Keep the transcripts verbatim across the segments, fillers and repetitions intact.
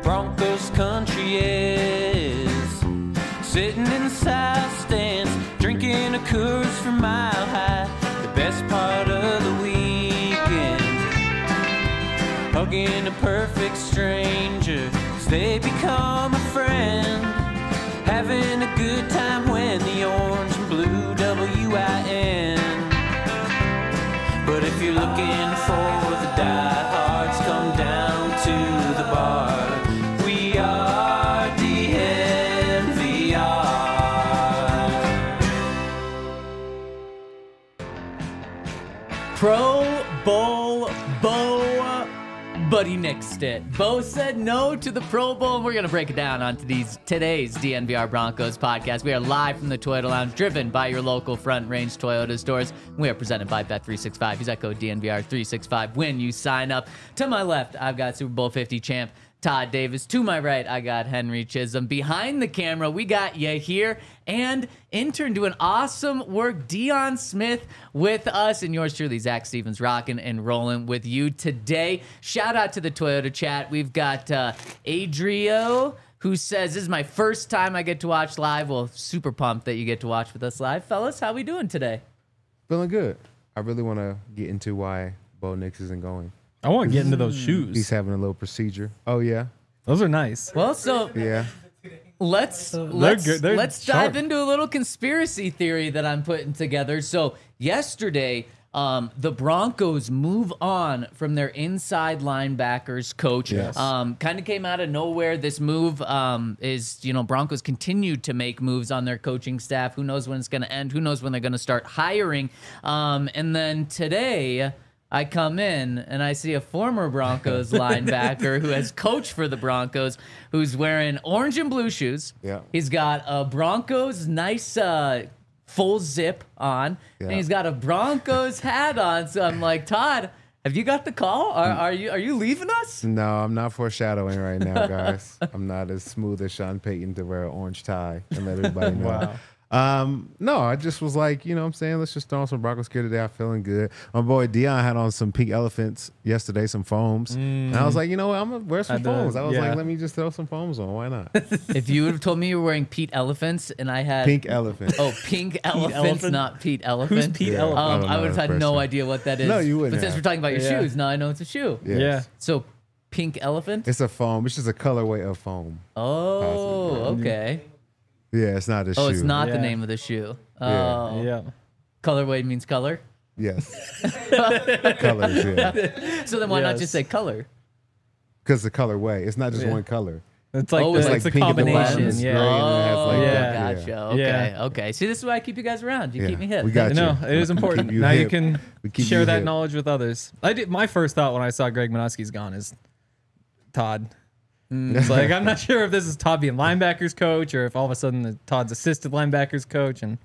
Broncos country is. Sitting in the south stands, drinking a Coors from Mile High. The best part of the weekend, hugging a perfect stranger, 'cause they become a friend. Having a good time when the orange and blue W I N. But if you're looking for the diehards, come down to the bar. We are D N V R. Pro Bowl Bo Buddy nixed it. Bo said no to the Pro Bowl, and we're going to break it down on today's, today's D N V R Broncos podcast. We are live from the Toyota Lounge, driven by your local Front Range Toyota stores. We are presented by Bet three sixty-five. Use that code D N V R three sixty-five when you sign up. To my left, I've got Super Bowl fifty champ Todd Davis. To my right, I got Henry Chisholm. Behind the camera, we got Yahir and intern doing awesome work, Dion Smith, with us. And yours truly, Zach Stevens, rocking and rolling with you today. Shout out to the Toyota chat. We've got uh, Adrio, who says, this is my first time I get to watch live. Well, super pumped that you get to watch with us live. Fellas, how we doing today? Feeling good. I really want to get into why Bo Nix isn't going. I want to get into those shoes. He's having a little procedure. Oh, yeah? Those are nice. Well, so Yeah. let's They're let's good. They're let's sharp. dive into a little conspiracy theory that I'm putting together. So yesterday, um, the Broncos move on from their inside linebackers coach. Yes. Um, kind of came out of nowhere. This move um, is, you know, Broncos continue to make moves on their coaching staff. Who knows when it's going to end? Who knows when they're going to start hiring? Um, and then today, I come in and I see a former Broncos linebacker who has coached for the Broncos, who's wearing orange and blue shoes. Yeah. He's got a Broncos nice uh, full zip on, Yeah. and he's got a Broncos hat on. So I'm like, Todd, have you got the call? Are, are you are you leaving us? No, I'm not foreshadowing right now, guys. I'm not as smooth as Sean Payton to wear an orange tie and let everybody know. Wow. Um, no, I just was like, you know what I'm saying? Let's just throw on some Broncos gear today. I'm feeling good. My boy Dion had on some pink elephants yesterday, some foams. Mm. And I was like, you know what? I'm going to wear some I did, foams. I was yeah. like, let me just throw some foams on. Why not? If you would have told me you were wearing Pete Elephants and I had Pink elephant. Oh, pink elephants, Elephant? not Pete Elephant. Who's Pete Yeah. Elephant? I Um, don't I know would have that had no person. idea what that is. No, you wouldn't But since have. we're talking about your Yeah. shoes, now I know it's a shoe. Yes. Yeah. So, pink elephant. It's a foam. It's just a colorway of foam. Oh, Possibly. okay. Yeah, it's not a shoe. Oh, it's not the Yeah. name of the shoe. Yeah. Oh, Yeah. colorway means color. Yes. Colors, yeah. So then why not Yes. just say color? Because the colorway. It's not just Yeah. one color. It's like Oh, the, it's it's like a pink and combination. orange, Yeah. gray. and it has like Oh, that, gotcha. yeah. Okay, Yeah. okay. See, this is why I keep you guys around. You Yeah. keep me hip. We got you. No, it is We important. keep you now you hip. can We keep share you that hip. knowledge with others. I did. My first thought when I saw Greg Minuski's gone is Todd. Mm. It's like I'm not sure if this is Todd being linebackers coach or if all of a sudden the Todd's assisted linebackers coach. And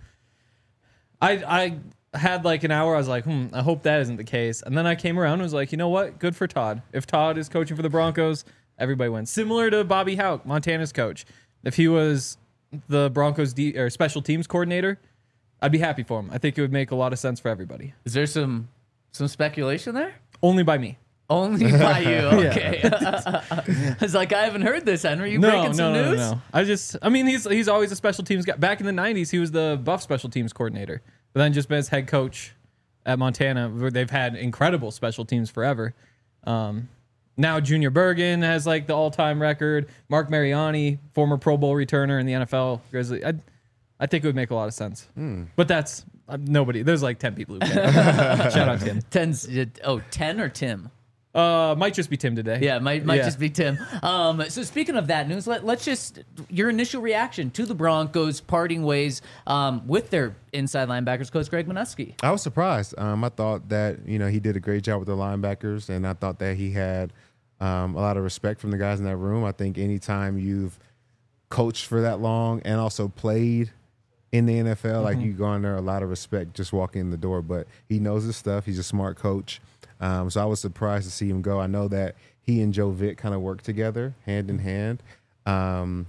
I I had like an hour. I was like, hmm, I hope that isn't the case. And then I came around and was like, you know what? Good for Todd. If Todd is coaching for the Broncos, everybody wins. Similar to Bobby Houck, Montana's coach. If he was the Broncos D, or special teams coordinator, I'd be happy for him. I think it would make a lot of sense for everybody. Is there some some speculation there? Only by me. Only by you. Okay. I was like, I haven't heard this, Henry. You no, breaking some no, no, news? no, no. I just, I mean, he's he's always a special teams guy. Back in the nineties, he was the Buff special teams coordinator, but then just been as head coach at Montana, where they've had incredible special teams forever. Um, now Junior Bergen has like the all-time record. Mark Mariani, former Pro Bowl returner in the N F L Grizzly. I, I think it would make a lot of sense. Hmm. But that's uh, nobody. There's like ten people who care. Shout out to Tim. Ten's, oh, ten or Tim? Uh, might just be Tim today. Yeah, might might Yeah. just be Tim. Um, so speaking of that news, let, let's just your initial reaction to the Broncos parting ways um, with their inside linebackers coach Greg Minuski. I was surprised. Um, I thought that, you know, he did a great job with the linebackers, and I thought that he had um, a lot of respect from the guys in that room. I think anytime you've coached for that long and also played in the N F L, mm-hmm. like you garner a lot of respect just walking in the door. But he knows his stuff. He's a smart coach. Um, so I was surprised to see him go. I know that he and Joe Vick kind of work together hand in hand. Um,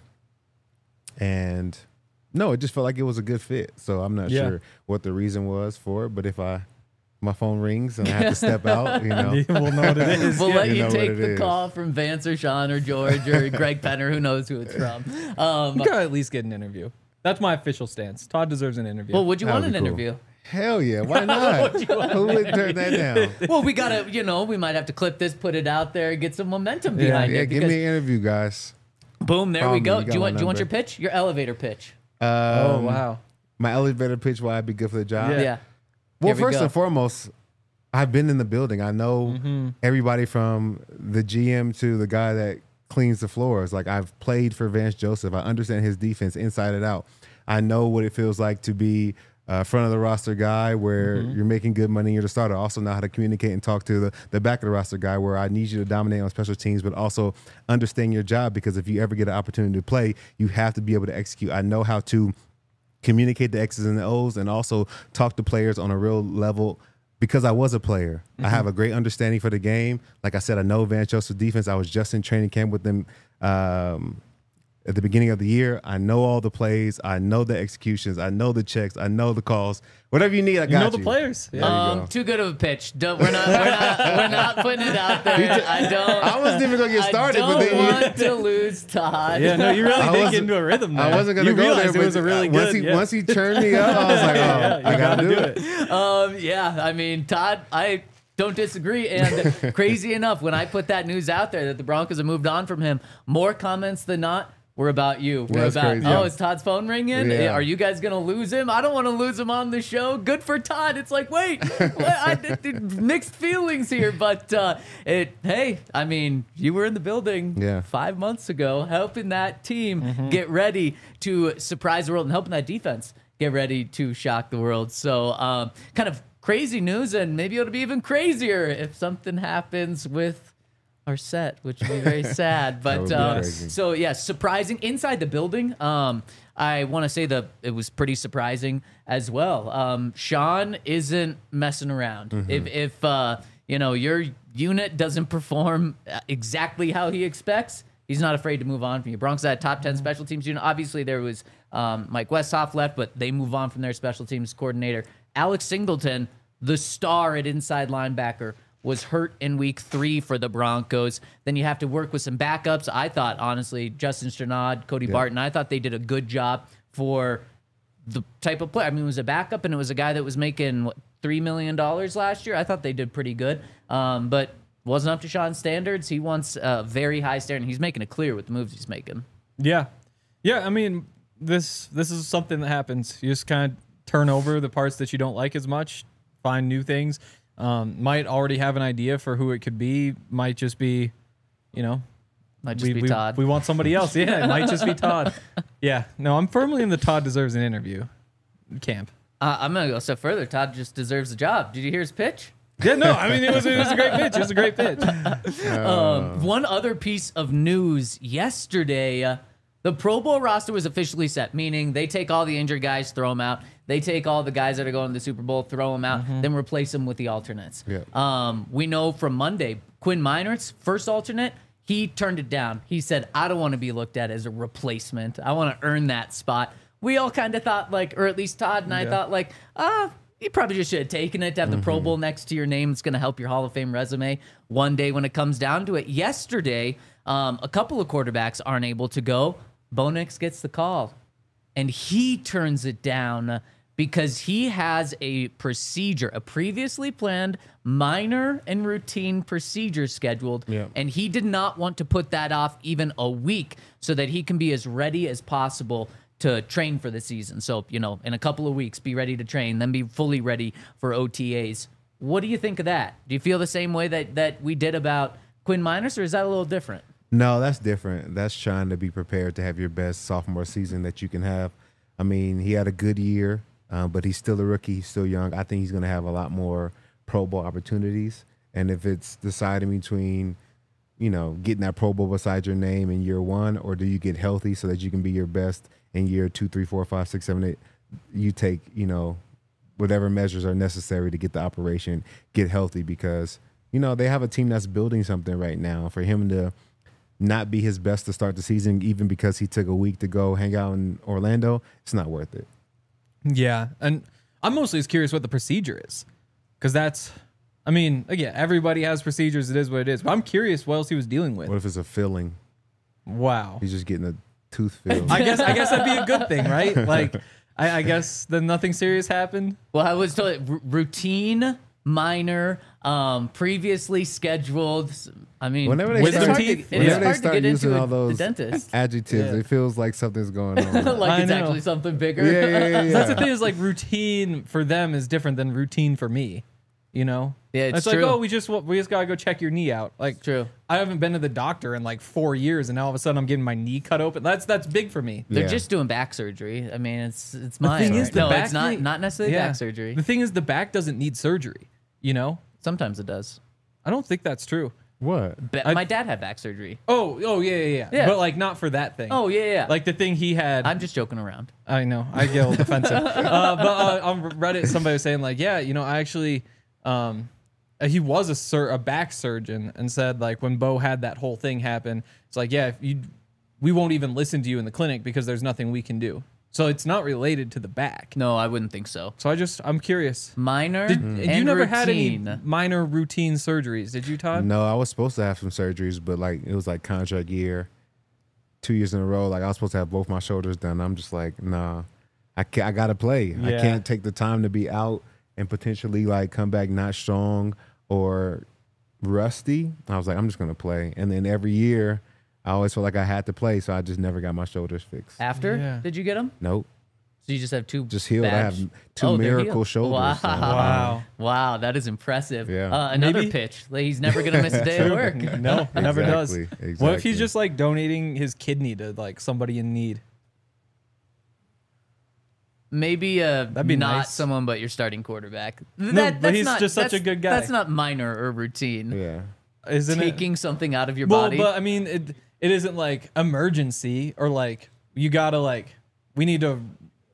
and no, it just felt like it was a good fit. So I'm not Yeah. sure what the reason was for it. But if I my phone rings and I have to step out, you know. We'll know what it is. We'll yeah. let You you know take what it the is. call from Vance or Sean or George or Greg Penner, who knows who it's from. Um, You gotta at least get an interview. That's my official stance. Todd deserves an interview. well, would you That want would an be cool. interview? Hell yeah, why not? Who would turn that down? Well, we gotta, you know, we might have to clip this, put it out there, get some momentum Yeah. behind Yeah, it. give because- me an interview, guys. boom, there Call we me. go. You Do you got want? my Do you want your number. pitch? Your elevator pitch. Um, oh wow. My elevator pitch, why I'd be good for the job. Yeah. Yeah. Well, Here we first go. and foremost, I've been in the building. I know Mm-hmm. everybody from the G M to the guy that cleans the floors. Like, I've played for Vance Joseph. I understand his defense inside and out. I know what it feels like to be a front of the roster guy where Mm-hmm. you're making good money. You're the starter. I also know how to communicate and talk to the, the back of the roster guy where I need you to dominate on special teams, but also understand your job, because if you ever get an opportunity to play, you have to be able to execute. I know how to communicate the X's and the O's and also talk to players on a real level because I was a player. I have a great understanding for the game. Like I said, I know Vance Joseph defense. I was just in training camp with them um, at the beginning of the year. I know all the plays. I know the executions. I know the checks. I know the calls. Whatever you need, I got You you. know the players. Yeah. There you Um, go. too good of a pitch. Don't, we're not. We're not. We're not putting it out there. I don't. I wasn't even gonna get started, I but don't then you- want to lose Todd. yeah, no, you really I did get wasn't- into a rhythm there. I wasn't gonna you go there, realized but it was a really once good. he yeah. once he turned me up, I was like, oh, Yeah, I you gotta, do gotta it. Um, yeah, I mean, Todd, I don't disagree. And crazy enough, when I put that news out there that the Broncos have moved on from him, more comments than not were about you. We're That's about, crazy. oh, Yeah. is Todd's phone ringing? Yeah. Are you guys going to lose him? I don't want to lose him on the show. Good for Todd. It's like, wait, what? I did, did mixed feelings here. But uh, it, hey, I mean, you were in the building Yeah. five months ago helping that team Mm-hmm. get ready to surprise the world and helping that defense get ready to shock the world. So um, kind of crazy news, and maybe it'll be even crazier if something happens with our set, which would be very sad. But would be uh, crazy. so yeah, surprising inside the building. Um, I want to say that it was pretty surprising as well. Um, Sean isn't messing around. Mm-hmm. If if uh, you know your unit doesn't perform exactly how he expects, he's not afraid to move on from you. Broncos had a top ten special teams unit. Obviously, there was um, Mike Westhoff left, but they move on from their special teams coordinator. Alex Singleton, the star at inside linebacker, was hurt in week three for the Broncos. Then you have to work with some backups. I thought, honestly, Justin Strnad, Cody Barton, I thought they did a good job for the type of player. I mean, it was a backup, and it was a guy that was making, what, three million dollars last year. I thought they did pretty good, um, but wasn't up to Sean's standards. He wants a very high standard, and he's making it clear with the moves he's making. Yeah, yeah. I mean, this this is something that happens. You just kind of turn over the parts that you don't like as much, find new things. Um, might already have an idea for who it could be. Might just be, you know, Might just we, be we, Todd. we want somebody else. Yeah, it might just be Todd. Yeah, no, I'm firmly in the Todd deserves an interview camp. Uh, I'm going to go a step further. Todd just deserves a job. Did you hear his pitch? Yeah, no, I mean it was it was a great pitch. It was a great pitch. Um, one other piece of news yesterday, uh, the Pro Bowl roster was officially set, meaning they take all the injured guys, throw them out. They take all the guys that are going to the Super Bowl, throw them out, then replace them with the alternates. Yeah. Um, we know from Monday, Quinn Meinerz, first alternate, he turned it down. He said, I don't want to be looked at as a replacement. I want to earn that spot. We all kind of thought like, or at least Todd and I Yeah. thought like, ah, you probably just should have taken it to have the Pro Bowl next to your name. It's going to help your Hall of Fame resume one day when it comes down to it. Yesterday, um, a couple of quarterbacks aren't able to go. Bo Nix gets the call, and he turns it down because he has a procedure, a previously planned minor and routine procedure scheduled, Yeah. and he did not want to put that off even a week so that he can be as ready as possible to train for the season. So, you know, in a couple of weeks, be ready to train, then be fully ready for O T As. What do you think of that? Do you feel the same way that, that we did about Quinn Meinerz, or is that a little different? No, that's different. That's trying to be prepared to have your best sophomore season that you can have. I mean, he had a good year, um, but he's still a rookie. He's still young. I think he's going to have a lot more Pro Bowl opportunities. And if it's deciding between, you know, getting that Pro Bowl beside your name in year one, or do you get healthy so that you can be your best in year two, three, four, five, six, seven, eight, you take, you know, whatever measures are necessary to get the operation, get healthy, because, you know, they have a team that's building something right now. For him to not be his best to start the season, even because he took a week to go hang out in Orlando, it's not worth it. Yeah, and I'm mostly just curious what the procedure is. Because that's, I mean, again, everybody has procedures. It is what it is. But I'm curious what else he was dealing with. What if it's a filling? Wow. He's just getting a tooth filled. I guess I guess that'd be a good thing, right? Like, I, I guess then nothing serious happened. Well, I was told r- routine, minor, um, previously scheduled. I mean, Whenever they it's start- hard to, teeth- it whenever is they hard to start get using into all a, those the dentist. adjectives, Yeah. it feels like something's going on. like I it's know. actually something bigger. yeah, yeah, yeah, yeah. That's the thing is like routine for them is different than routine for me. You know? Yeah, it's like, true. oh, we just we just gotta go check your knee out. Like, True. I haven't been to the doctor in like four years, and now all of a sudden I'm getting my knee cut open. That's that's big for me. They're Yeah. just doing back surgery. I mean, it's it's The mine. thing is, the no, back it's not thing- not necessarily Yeah. back surgery. The thing is, the back doesn't need surgery. You know? Sometimes it does. I don't think that's true. What? Ba- I- my dad had back surgery. Oh, oh yeah, yeah, yeah, Yeah. But like not for that thing. Oh yeah, yeah. Like the thing he had. I'm just joking around. I know. I get a little defensive. Uh, but uh, on Reddit, somebody was saying like, yeah, you know, I actually, um, he was a sur- a back surgeon, and said like when Bo had that whole thing happen, it's like, yeah, if you, we won't even listen to you in the clinic because there's nothing we can do. So it's not related to the back. No, I wouldn't think so. So I just, I'm curious. Minor Did, and you never had any routine. minor routine surgeries? Did you, Todd? No, I was supposed to have some surgeries, but like it was like contract year, two years in a row. Like I was supposed to have both my shoulders done. I'm just like, nah, I can't, I gotta play. I Yeah. can't take the time to be out and potentially like come back not strong or rusty. I was like, I'm just gonna play. And then every year, I always felt like I had to play, so I just never got my shoulders fixed. After, Yeah. did you get them? Nope, So you just have two. just healed. I bad have sh- two Oh, they're miracle healed. shoulders. Wow. so- Wow. Wow, that is impressive. Yeah. Uh, another Maybe- pitch. Like, he's never gonna miss a day of work. No, it never does. Exactly, What if exactly. he's just like donating his kidney to like somebody in need? Maybe uh, That'd be not nice. someone, but your starting quarterback. No, That- but that's he's not- just such a that's- good guy. That's not minor or routine. Yeah. Isn't it? Taking something out of your Well, body. but I mean, it it isn't like emergency or like you gotta like we need to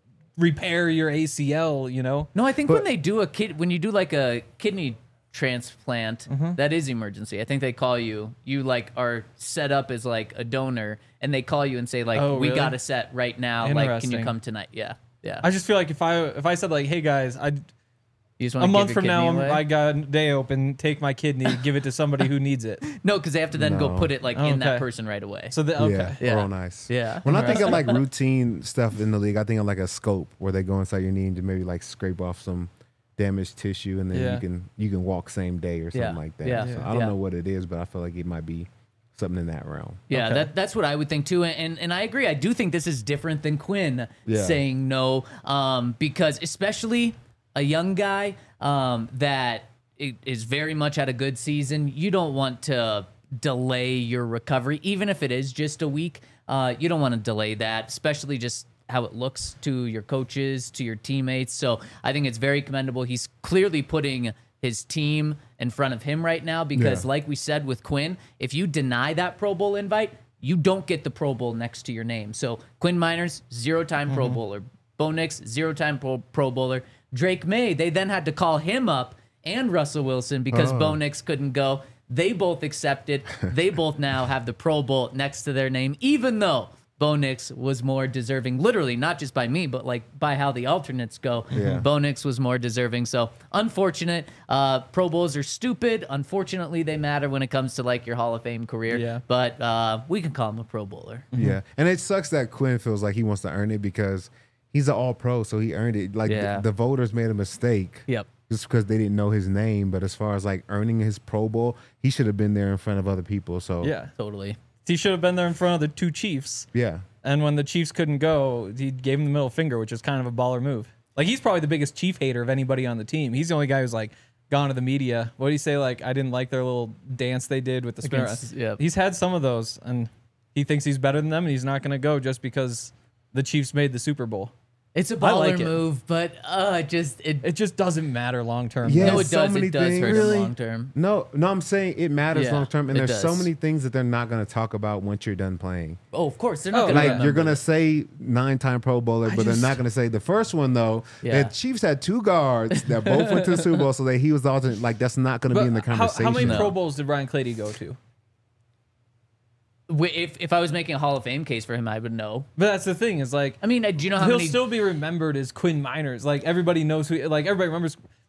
repair your A C L. You know? No, I think But- when they do a kid, when you do like a kidney transplant, Mm-hmm. that is emergency. I think they call you. You like are set up as like a donor, and they call you and say like, Oh, "We really? got a set right now. Like, can you Interesting. come tonight?" Yeah, yeah. I just feel like if I if I said like, hey guys, I You just a wanna month give from your now kidney I'm, away? I got a day open, take my kidney, give it to somebody who needs it. No, because they have to then go No. put it like in that Okay. person right away. So the, okay. Yeah, Yeah. real nice. Yeah. When I think of like routine stuff in the league, I think of like a scope where they go inside your knee and just maybe like scrape off some damaged tissue, and then Yeah. you can you can walk same day or something Yeah. like that. Yeah. So Yeah. I don't Yeah. know what it is, but I feel like it might be something in that realm. Yeah, Okay. that that's what I would think too, and and I agree. I do think this is different than Quinn Yeah. saying no, um, because especially a young guy um, that i- is very much at a good season, you don't want to delay your recovery, even if it is just a week. Uh, you don't want to delay that, especially just how it looks to your coaches, to your teammates. So I think it's very commendable. He's clearly putting his team in front of him right now because, Yeah. like we said with Quinn, if you deny that Pro Bowl invite, you don't get the Pro Bowl next to your name. So Quinn Miners, zero-time Pro Bowler. Bo Nix, zero-time Pro, Pro Bowler. Drake May, they then had to call him up and Russell Wilson because Oh. Bo Nix couldn't go. They both accepted. They both now have the Pro Bowl next to their name, even though Bo Nix was more deserving, literally, not just by me, but like by how the alternates go. Yeah. Bo Nix was more deserving. So unfortunate. Uh, Pro Bowls are stupid. Unfortunately, they matter when it comes to like your Hall of Fame career. Yeah. But uh, we can call him a Pro Bowler. Yeah, and it sucks that Quinn feels like he wants to earn it because he's an All Pro, so he earned it. Like Yeah. the, the voters made a mistake. Yep. Just because they didn't know his name, but as far as like earning his Pro Bowl, he should have been there in front of other people. So Yeah. Totally. He should have been there in front of the two Chiefs. yeah. And when the Chiefs couldn't go, he gave him the middle finger, which is kind of a baller move. Like, he's probably the biggest Chief hater of anybody on the team. He's the only guy who's like gone to the media. What do you say? Like, I didn't like their little dance they did with the spinner. Against- yeah. He's had some of those, and he thinks he's better than them, and he's not going to go just because the Chiefs made the Super Bowl. It's a I baller like it. move, but uh, just it. It just doesn't matter long term. Yeah. no, it so does. many It does things. hurt Really? him long term. No, no, I'm saying it matters Yeah, long term, and it there's so does. many things that they're not going to talk about once you're done playing. Oh, of course they're not Oh, going to Like remember you're gonna this. say nine-time Pro Bowler, but just- they're not gonna say the first one though. Yeah. The Chiefs had two guards that both went to the Super Bowl, so that he was the alternate. Like that's not gonna But be in the how, conversation. how many No. Pro Bowls did Ryan Clady go to? Wi- If if I was making a Hall of Fame case for him, I would know. But that's the thing, is like, I mean, uh, do you know how he'll many? still be remembered as Quinn Miners. Like, everybody knows who, like, everybody remembers,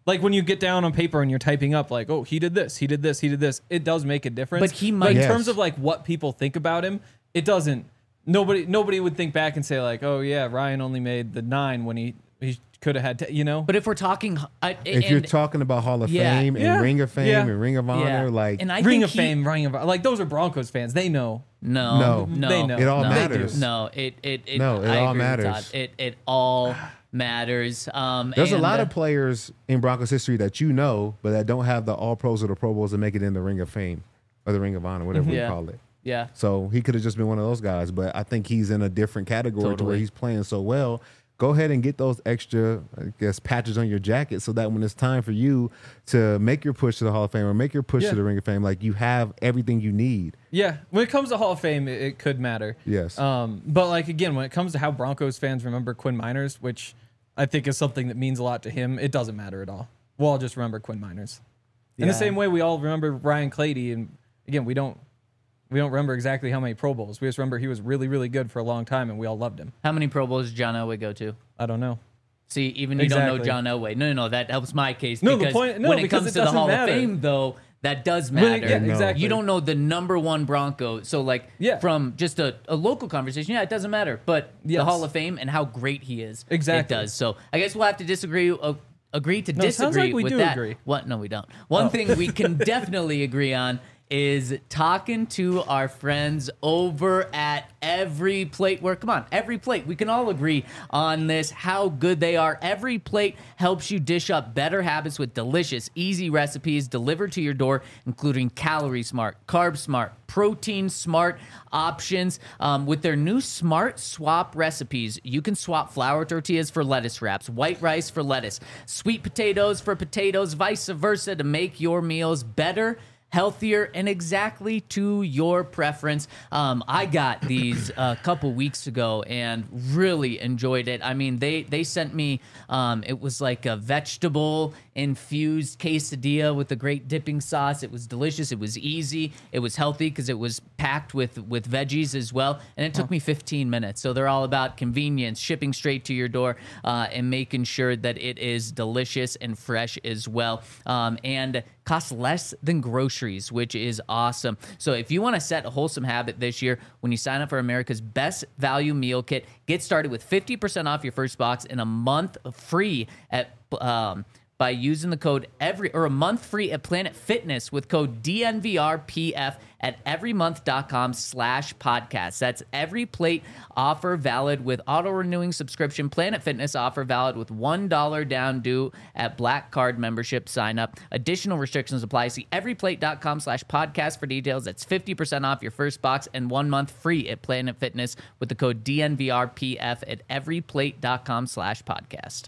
like when you get down on paper and you're typing up like, oh, he did this, he did this, he did this. It does make a difference. But he might- in Yes. terms of like what people think about him, it doesn't. Nobody nobody would think back and say like, oh yeah, Ryan only made the nine when he he could have had, t-, you know. But if we're talking, uh, If and, you're talking about Hall of Yeah. Fame and Yeah. Ring of Fame Yeah. and Ring of Honor, yeah. like and I Ring think of he- Fame, Ring of like those are Broncos fans. They know. No, No. no, They know. It all no, matters. No, it it, it No, it I all agree with matters. Todd. It it all matters. Um, there's a and, lot uh, of players in Broncos history that you know, but that don't have the All Pros or the Pro Bowls to make it in the Ring of Fame or the Ring of Honor, whatever Yeah. we call it. yeah. So he could have just been one of those guys, but I think he's in a different category to where Totally. he's playing so well. Go ahead and get those extra, I guess, patches on your jacket so that when it's time for you to make your push to the Hall of Fame or make your push Yeah. to the Ring of Fame, like you have everything you need. Yeah, when it comes to Hall of Fame, it, it could matter. Yes. Um, but like again, when it comes to how Broncos fans remember Quinn Miners, which I think is something that means a lot to him, it doesn't matter at all. We'll all just remember Quinn Miners. In the Yeah. same way we all remember Ryan Clady, and again, we don't we don't remember exactly how many Pro Bowls. We just remember he was really, really good for a long time, and we all loved him. How many Pro Bowls did John Elway go to? I don't know. See, even you don't know Exactly. John Elway. No, no, no, that helps my case. No, the because point- no, when it because comes it to the doesn't Hall matter. of Fame, though, that does Well, matter. yeah, No. exactly. You don't know the number one Bronco. So, like, Yeah. from just a, a local conversation, yeah, it doesn't matter. But the Yes. Hall of Fame and how great he is, Exactly. it does. So, I guess we'll have to disagree. Uh, agree to No, it sounds disagree like we with do that. agree. What? No, we don't. One Oh. thing we can definitely agree on is talking to our friends over at Every Plate. Where, come on, Every Plate. We can all agree on this, how good they are. Every Plate helps you dish up better habits with delicious, easy recipes delivered to your door, including Calorie Smart, Carb Smart, Protein Smart options. Um, with their new Smart Swap recipes, you can swap flour tortillas for lettuce wraps, white rice for lettuce, sweet potatoes for potatoes, vice versa, to make your meals better, healthier, and exactly to your preference. Um, I got these a couple weeks ago and really enjoyed it. I mean, they they sent me, um, it was like a vegetable infused quesadilla with a great dipping sauce. It was delicious. It was easy. It was healthy because it was packed with with veggies as well. And it took me fifteen minutes. So they're all about convenience, shipping straight to your door, uh, and making sure that it is delicious and fresh as well. Um, and costs less than groceries, which is awesome. So if you want to set a wholesome habit this year, when you sign up for America's Best Value Meal Kit, get started with fifty percent off your first box and a month free at um, by using the code every or a month free at Planet Fitness with code D N V R P F at everymonth.com slash podcast. That's Every Plate offer valid with auto-renewing subscription. Planet Fitness offer valid with one dollar down due at Black Card membership sign up. Additional restrictions apply. See everyplate.com slash podcast for details. That's fifty percent off your first box and one month free at Planet Fitness with the code D N V R P F at everyplate.com slash podcast.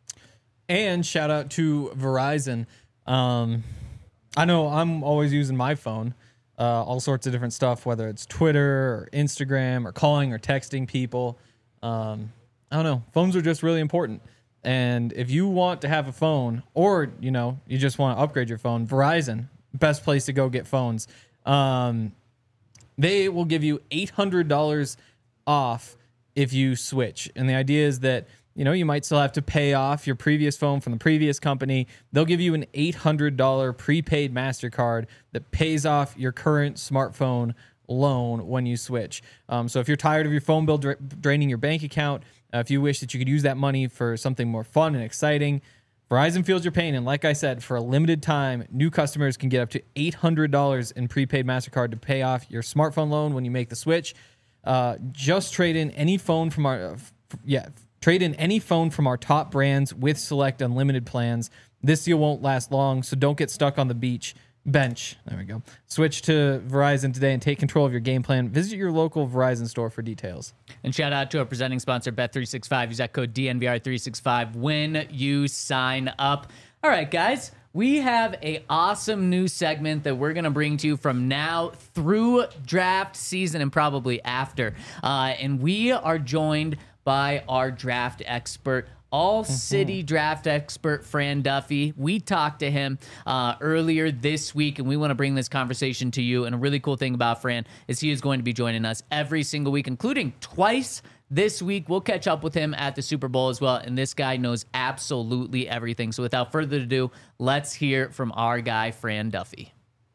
And shout out to Verizon. Um, I know I'm always using my phone, uh, all sorts of different stuff, whether it's Twitter or Instagram or calling or texting people. Um, I don't know. Phones are just really important. And if you want to have a phone or, you know, you just want to upgrade your phone, Verizon, best place to go get phones. Um, they will give you eight hundred dollars off if you switch. And the idea is that, you know, you might still have to pay off your previous phone from the previous company. They'll give you an eight hundred dollars prepaid MasterCard that pays off your current smartphone loan when you switch. Um, so if you're tired of your phone bill dra- draining your bank account, uh, if you wish that you could use that money for something more fun and exciting, Verizon feels your pain. And like I said, for a limited time, new customers can get up to eight hundred dollars in prepaid MasterCard to pay off your smartphone loan when you make the switch. Uh, just trade in any phone from our, uh, f- yeah, Trade in any phone from our top brands with select unlimited plans. This deal won't last long, so don't get stuck on the beach bench. There we go. Switch to Verizon today and take control of your game plan. Visit your local Verizon store for details. And shout out to our presenting sponsor, Bet three sixty-five. Use that code D N V R three sixty-five when you sign up. All right, guys. We have a awesome new segment that we're going to bring to you from now through draft season and probably after. Uh, and we are joined by our draft expert, All City draft expert Fran Duffy. We talked to him uh, earlier this week, and we want to bring this conversation to you. And a really cool thing about Fran is he is going to be joining us every single week, including twice this week. We'll catch up with him at the Super Bowl as well. And this guy knows absolutely everything. So without further ado, let's hear from our guy, Fran Duffy.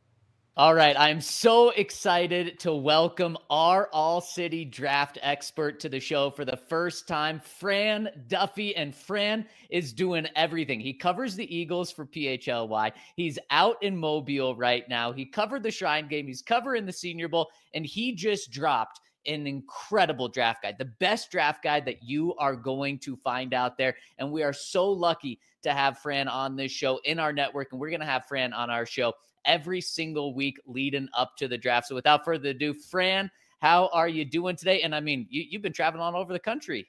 All right, I'm so excited to welcome our All-City draft expert to the show for the first time, Fran Duffy. And Fran is doing everything. He covers the Eagles for P H L Y. He's out in Mobile right now. He covered the Shrine Game. He's covering the Senior Bowl, and he just dropped an incredible draft guide, the best draft guide that you are going to find out there. And we are so lucky to have Fran on this show in our network, and we're going to have Fran on our show every single week leading up to the draft. So without further ado, Fran, how are you doing today? And I mean, you, you've been traveling all over the country.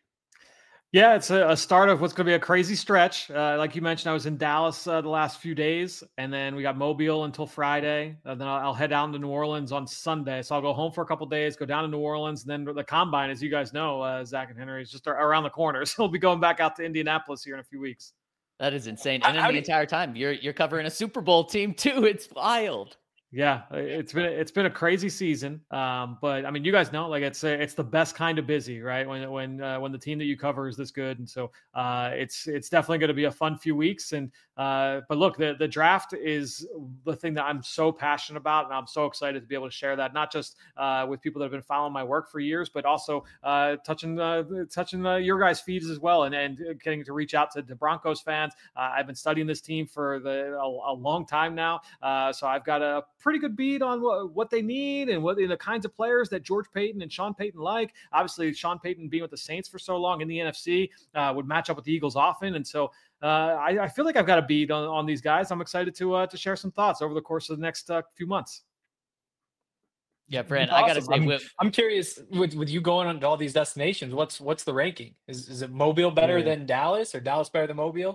Yeah, it's a, a start of what's going to be a crazy stretch. Uh, like you mentioned, I was in Dallas uh, the last few days, and then we got Mobile until Friday. And then I'll, I'll head down to New Orleans on Sunday. So I'll go home for a couple days, go down to New Orleans, and then the Combine, as you guys know, uh, Zach and Henry, is just around the corner. So we'll be going back out to Indianapolis here in a few weeks. That is insane. And then the entire time you're you're covering a Super Bowl team too. It's wild. Yeah, it's been it's been a crazy season, um, but I mean, you guys know, like it's it's the best kind of busy, right? When when uh, when the team that you cover is this good, and so uh, it's it's definitely going to be a fun few weeks. And uh, but look, the the draft is the thing that I'm so passionate about, and I'm so excited to be able to share that, not just uh, with people that have been following my work for years, but also uh, touching uh, touching uh, your guys' feeds as well, and and getting to reach out to the Broncos fans. Uh, I've been studying this team for the a, a long time now, uh, so I've got a pretty good beat on what, what they need and what the kinds of players that George Payton and Sean Payton like. Obviously, Sean Payton being with the Saints for so long in the N F C uh, would match up with the Eagles often. And so uh, I, I feel like I've got a beat on, on these guys. I'm excited to uh, to share some thoughts over the course of the next uh, few months. Yeah, Fran, awesome. I got to say, I'm, with, I'm curious with, with you going on to all these destinations, what's what's the ranking? Is is it Mobile better yeah. than Dallas or Dallas better than Mobile?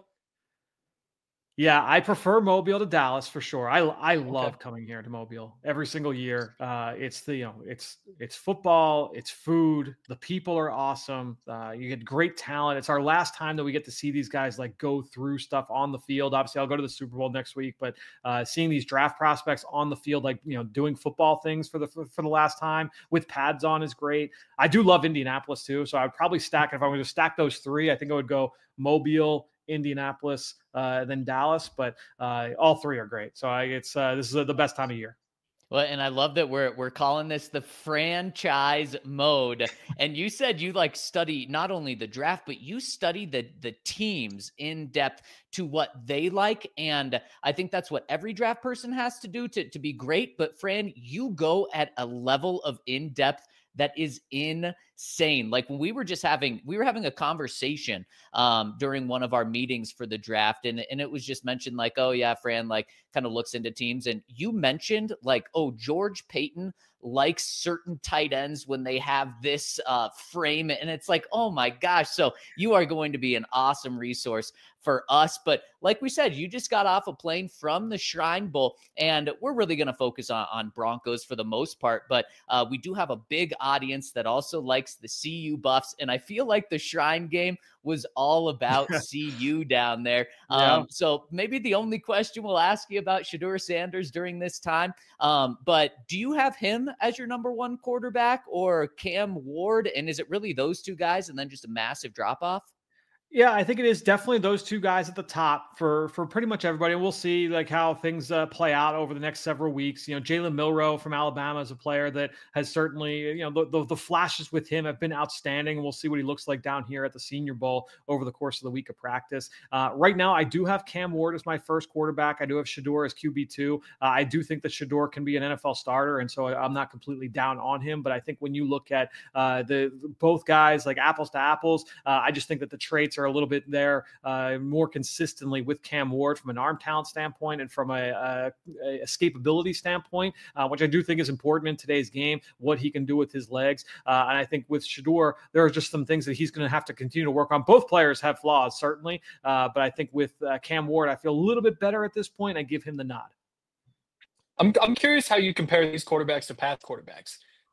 Yeah, I prefer Mobile to Dallas for sure. I I love Okay. coming here to Mobile every single year. Uh, it's the you know it's it's football, it's food. The people are awesome. Uh, you get great talent. It's our last time that we get to see these guys like go through stuff on the field. Obviously, I'll go to the Super Bowl next week, but uh, seeing these draft prospects on the field, like you know, doing football things for the for, for the last time with pads on is great. I do love Indianapolis too, so I'd probably stack if I were to stack those three. I think I would go Mobile, Indianapolis, uh, then Dallas, but uh, all three are great. So I, it's uh, this is uh, the best time of year. well, and I love that we're we're calling this the franchise mode. And you said you like study not only the draft, but you study the the teams in depth to what they like. And I think that's what every draft person has to do to to be great. But Fran, you go at a level of in depth that is insane. Like when we were just having, we were having a conversation um, during one of our meetings for the draft. And, and it was just mentioned like, oh yeah, Fran, like kind of looks into teams. And you mentioned like, oh, George Payton likes certain tight ends when they have this uh, frame. And it's like, oh my gosh. So you are going to be an awesome resource for us. But like we said, you just got off a plane from the Shrine Bowl, and we're really going to focus on, on Broncos for the most part. But uh, we do have a big audience that also likes the C U Buffs. And I feel like the Shrine Game was all about C U down there. Yeah. Um, so maybe the only question we'll ask you about Shedeur Sanders during this time. Um, but do you have him as your number one quarterback or Cam Ward? And is it really those two guys and then just a massive drop off? Yeah, I think it is definitely those two guys at the top for for pretty much everybody. And we'll see like how things uh, play out over the next several weeks. You know, Jalen Milroe from Alabama is a player that has certainly, you know, the, the, the flashes with him have been outstanding. And we'll see what he looks like down here at the Senior Bowl over the course of the week of practice. Uh, right now, I do have Cam Ward as my first quarterback. I do have Shedeur as Q B two. Uh, I do think that Shedeur can be an N F L starter. And so I'm not completely down on him. But I think when you look at uh, the both guys like apples to apples, uh, I just think that the traits are a little bit there uh, more consistently with Cam Ward from an arm talent standpoint and from a, a, a escapability standpoint, uh, which I do think is important in today's game, what he can do with his legs. Uh, and I think with Shedeur, there are just some things that he's going to have to continue to work on. Both players have flaws, certainly. Uh, but I think with uh, Cam Ward, I feel a little bit better at this point. I give him the nod. I'm I'm curious how you compare these quarterbacks to past quarterbacks,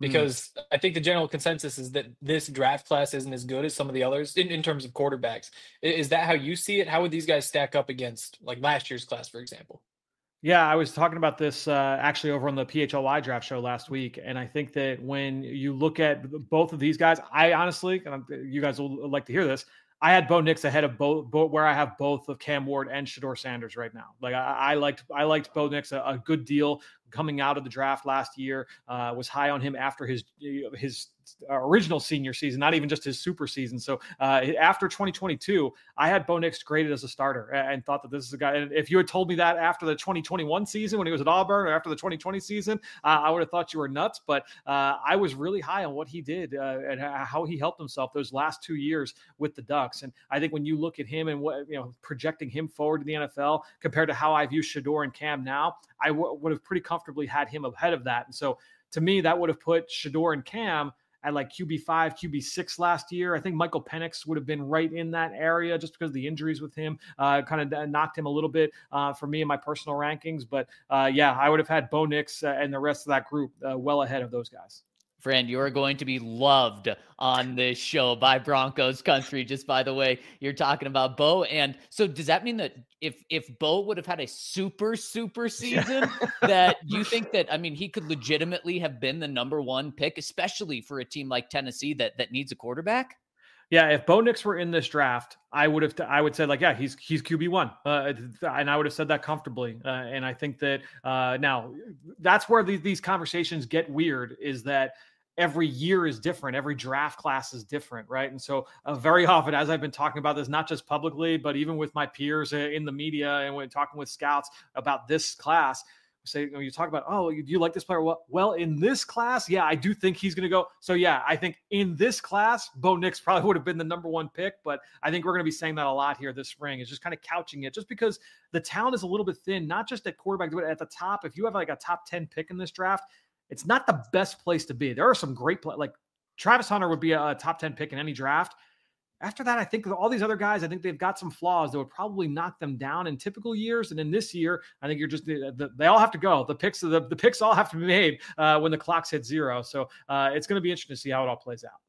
because mm. I think the general consensus is that this draft class isn't as good as some of the others in, in terms of quarterbacks. Is that how you see it? How would these guys stack up against like last year's class, for example? Yeah, I was talking about this uh, actually over on the P H L Y draft show last week. And I think that when you look at both of these guys, I honestly, and you guys will like to hear this, I had Bo Nix ahead of both, both where I have both of Cam Ward and Shedeur Sanders right now. Like I, I liked, I liked Bo Nix a, a good deal coming out of the draft last year. Uh, was high on him after his his original senior season, not even just his super season. So uh, after twenty twenty-two, I had Bo Nix graded as a starter and thought that this is a guy. And if you had told me that after the twenty twenty-one season when he was at Auburn, or after the twenty twenty season, uh, I would have thought you were nuts. But uh, I was really high on what he did uh, and how he helped himself those last two years with the Ducks. And I think when you look at him and what, you know, projecting him forward to the N F L compared to how I view Shedeur and Cam now, I w- would have pretty comfortably had him ahead of that. And so to me, that would have put Shedeur and Cam at like Q B five, Q B six last year. I think Michael Penix would have been right in that area just because the injuries with him uh, kind of knocked him a little bit uh, for me in my personal rankings. But uh, yeah, I would have had Bo Nix uh, and the rest of that group uh, well ahead of those guys. Friend, you are going to be loved on this show by Broncos country. Just by the way, you're talking about Bo. And so does that mean that if, if Bo would have had a super, super season that you think that, I mean, he could legitimately have been the number one pick, especially for a team like Tennessee that, that needs a quarterback? Yeah, if Bo Nix were in this draft, I would have. I would say like, yeah, he's he's Q B one, uh, and I would have said that comfortably. Uh, and I think that uh, now that's where these these conversations get weird. Is that every year is different. Every draft class is different, right? And so uh, very often, as I've been talking about this, not just publicly, but even with my peers in the media and when talking with scouts about this class, say, you know, you talk about, oh, do you like this player? Well, well, in this class, yeah, I do think he's going to go. So yeah, I think in this class, Bo Nix probably would have been the number one pick, but I think we're going to be saying that a lot here this spring. It's just kind of couching it just because the talent is a little bit thin, not just at quarterback, but at the top. If you have like a top ten pick in this draft, it's not the best place to be. There are some great play, like Travis Hunter would be a top ten pick in any draft. After that, I think all these other guys, I think they've got some flaws that would probably knock them down in typical years. And in this year, I think you're just, they all have to go. The picks, the, the picks all have to be made uh, when the clock's hit zero. So uh, it's going to be interesting to see how it all plays out.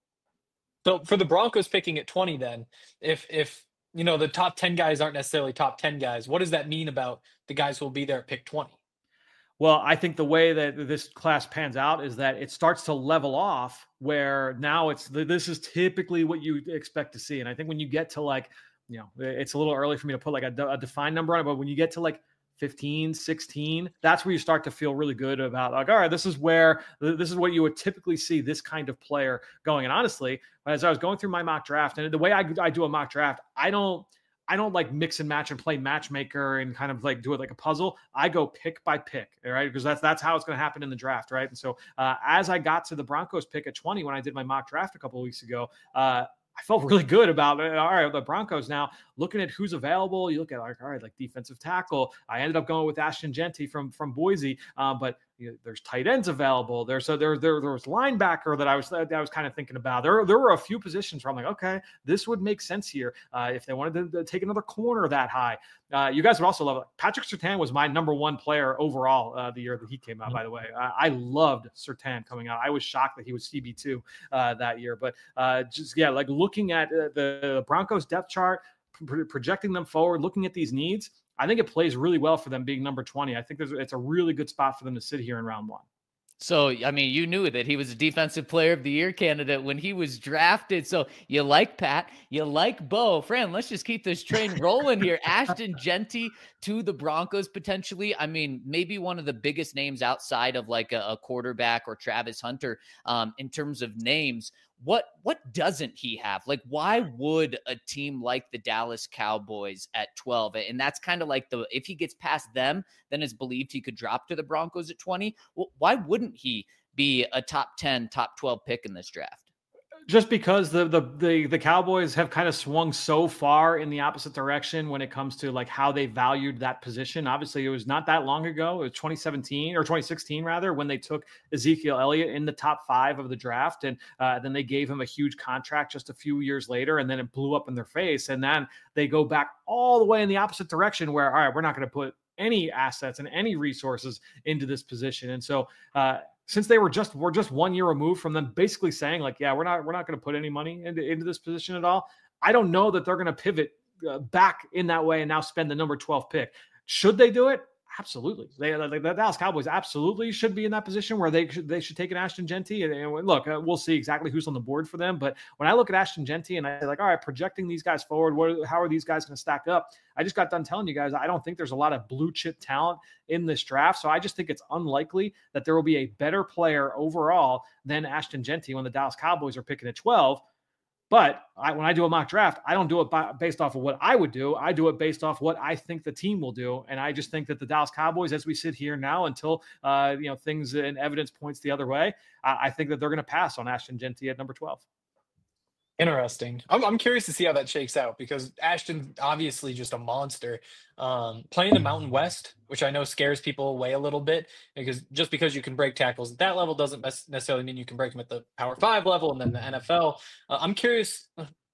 So for the Broncos picking at twenty, then if, if, you know, the top ten guys aren't necessarily top ten guys, what does that mean about the guys who will be there at pick twenty? Well, I think the way that this class pans out is that it starts to level off where now it's, this is typically what you expect to see. And I think when you get to like, you know, it's a little early for me to put like a, a defined number on it, but when you get to like fifteen, sixteen, that's where you start to feel really good about like, all right, this is where, this is what you would typically see this kind of player going. And honestly, as I was going through my mock draft and the way I, I do a mock draft, I don't, I don't like mix and match and play matchmaker and kind of like do it like a puzzle. I go pick by pick, right? Because that's that's how it's going to happen in the draft, right? And so uh, as I got to the Broncos pick at twenty when I did my mock draft a couple of weeks ago, uh, I felt really good about it. All right, the Broncos now looking at who's available. You look at like, all right, like defensive tackle. I ended up going with Ashton Jeanty from from Boise, uh, but you know, there's tight ends available. There's so there there there was linebacker that I was that I was kind of thinking about. There there were a few positions where I'm like, okay, this would make sense here uh, if they wanted to, to take another corner that high. Uh, you guys would also love it. Patrick Surtain was my number one player overall uh, the year that he came out. Mm-hmm. By the way, I, I loved Surtain coming out. I was shocked that he was C B two uh, that year. But uh, just yeah, like looking at uh, the Broncos depth chart, pro- projecting them forward, looking at these needs. I think it plays really well for them being number twenty. I think there's, it's a really good spot for them to sit here in round one. So, I mean, you knew that he was a defensive player of the year candidate when he was drafted. So you like Pat, you like Bo. Fran, let's just keep this train rolling here. Ashton Jeanty to the Broncos potentially. I mean, maybe one of the biggest names outside of like a, a quarterback or Travis Hunter um, in terms of names. What what doesn't he have? Like, why would a team like the Dallas Cowboys at twelve, and that's kind of like the, if he gets past them, then it's believed he could drop to the Broncos at twenty. Well, why wouldn't he be a top ten, top twelve pick in this draft? Just because the, the the the Cowboys have kind of swung so far in the opposite direction when it comes to like how they valued that position. Obviously, it was not that long ago. It was twenty seventeen or twenty sixteen rather, when they took Ezekiel Elliott in the top five of the draft, and uh, then they gave him a huge contract just a few years later, and then it blew up in their face. And then they go back all the way in the opposite direction, where all right, we're not going to put any assets and any resources into this position. And so uh, since they were just we're just one year removed from them basically saying like, yeah, we're not we're not going to put any money into, into this position at all. I don't know that they're going to pivot uh, back in that way and now spend the number twelve pick. Should they do it? Absolutely. They, like, the Dallas Cowboys absolutely should be in that position where they should, they should take an Ashton Jeanty. And, and look, uh, we'll see exactly who's on the board for them. But when I look at Ashton Jeanty and I say like, all right, projecting these guys forward, what, how are these guys going to stack up? I just got done telling you guys, I don't think there's a lot of blue chip talent in this draft. So I just think it's unlikely that there will be a better player overall than Ashton Jeanty when the Dallas Cowboys are picking at twelve. But I, when I do a mock draft, I don't do it by, based off of what I would do. I do it based off what I think the team will do. And I just think that the Dallas Cowboys, as we sit here now, until uh, you know things and evidence points the other way, I, I think that they're going to pass on Ashton Jeanty at number twelve. Interesting. I'm, I'm curious to see how that shakes out because Ashton obviously just a monster. Um, playing the Mountain West, which I know scares people away a little bit, because just because you can break tackles at that level doesn't necessarily mean you can break them at the Power Five level and then the N F L. Uh, I'm curious,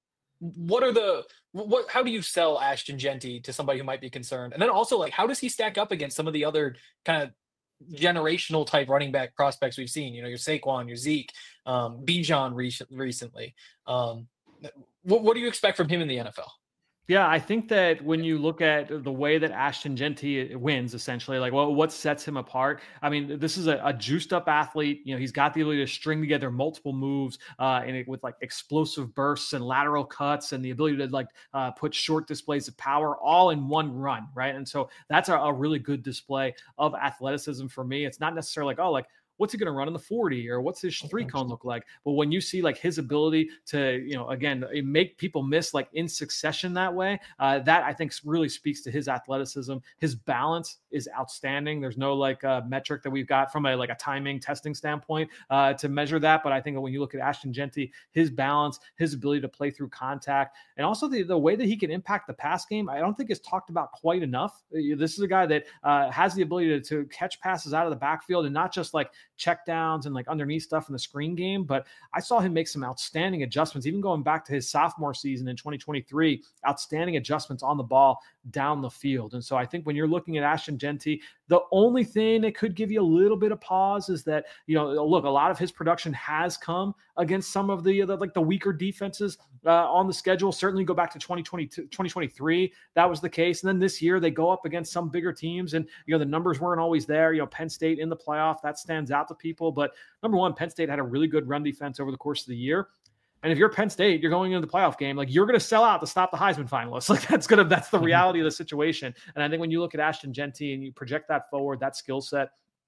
what are the what? How do you sell Ashton Jeanty to somebody who might be concerned? And then also, like, how does he stack up against some of the other kind of generational type running back prospects we've seen? You know, your Saquon, your Zeke, um, Bijan re- recently. Um, what, what do you expect from him in the N F L? Yeah, I think that when you look at the way that Ashton Jeanty wins, essentially, like, well, what sets him apart? I mean, this is a, a juiced-up athlete. You know, he's got the ability to string together multiple moves, uh, and it, with like explosive bursts and lateral cuts, and the ability to like uh, put short displays of power all in one run, right? And so that's a, a really good display of athleticism for me. It's not necessarily like, oh, like, what's he going to run in the forty or what's his three cone look like? But when you see like his ability to, you know, again, make people miss like in succession that way, uh, that I think really speaks to his athleticism. His balance is outstanding. There's no like uh, metric that we've got from a like a timing testing standpoint uh, to measure that. But I think that when you look at Ashton Jeanty, his balance, his ability to play through contact, and also the, the way that he can impact the pass game, I don't think is talked about quite enough. This is a guy that uh, has the ability to, to catch passes out of the backfield and not just like check downs and like underneath stuff in the screen game. But I saw him make some outstanding adjustments, even going back to his sophomore season in twenty twenty-three, outstanding adjustments on the ball down the field. And so I think when you're looking at Ashton Jeanty, the only thing that could give you a little bit of pause is that, you know, look, a lot of his production has come against some of the, the like the weaker defenses uh, on the schedule. Certainly go back to twenty twenty-two, twenty twenty-three. That was the case. And then this year they go up against some bigger teams and, you know, the numbers weren't always there. You know, Penn State in the playoff, that stands out to people. But number one, Penn State had a really good run defense over the course of the year. And if you're Penn State, you're going into the playoff game, like you're going to sell out to stop the Heisman finalists. Like that's going to, that's the reality of the situation. And I think when you look at Ashton Jeanty and you project that forward, that skill set,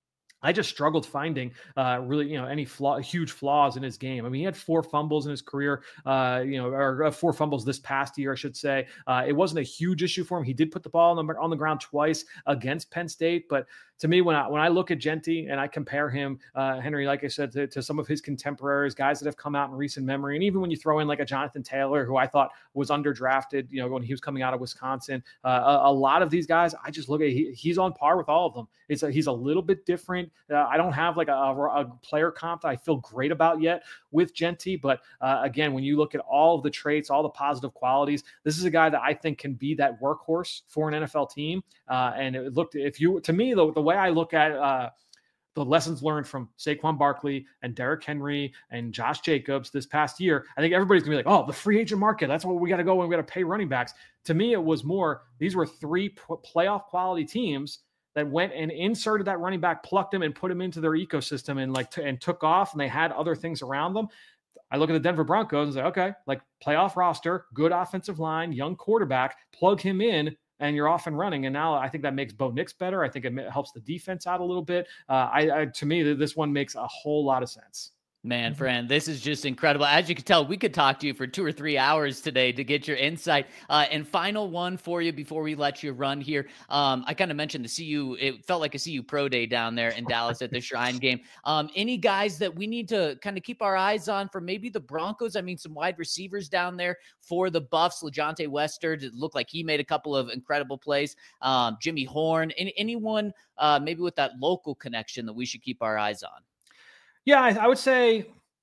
I just struggled finding uh, really, you know, any flaw, huge flaws in his game. I mean, he had four fumbles in his career, uh, you know, or uh, four fumbles this past year, I should say. Uh, it wasn't a huge issue for him. He did put the ball on the, on the ground twice against Penn State, but to me, when I when I look at Jeanty and I compare him, uh, Henry, like I said, to, to some of his contemporaries, guys that have come out in recent memory, and even when you throw in like a Jonathan Taylor, who I thought was underdrafted, you know, when he was coming out of Wisconsin, uh, a, a lot of these guys, I just look at he, he's on par with all of them. It's a, he's a little bit different. Uh, I don't have like a, a player comp that I feel great about yet with Jeanty, but uh, again, when you look at all of the traits, all the positive qualities, this is a guy that I think can be that workhorse for an N F L team. Uh, and it looked, if you, to me, the, the way I look at uh, the lessons learned from Saquon Barkley and Derrick Henry and Josh Jacobs this past year, I think everybody's gonna be like, oh, the free agent market, that's what we got to go and we got to pay running backs. To me, it was more, these were three p- playoff quality teams that went and inserted that running back, plucked him and put him into their ecosystem and like, t- and took off, and they had other things around them. I look at the Denver Broncos and say, okay, like playoff roster, good offensive line, young quarterback, plug him in, and you're off and running. And now I think that makes Bo Nix better. I think it helps the defense out a little bit. Uh, I, I to me, this one makes a whole lot of sense. Man, friend, this is just incredible. As you can tell, we could talk to you for two or three hours today to get your insight. Uh, and final one for you before we let you run here. Um, I kind of mentioned the C U. It felt like a C U Pro Day down there in Dallas at the Shrine game. Um, any guys that we need to kind of keep our eyes on for maybe the Broncos? I mean, some wide receivers down there for the Buffs. LeJontay Wester, it looked like he made a couple of incredible plays. Um, Jimmy Horn, any, anyone uh, maybe with that local connection that we should keep our eyes on? Yeah, I, I would say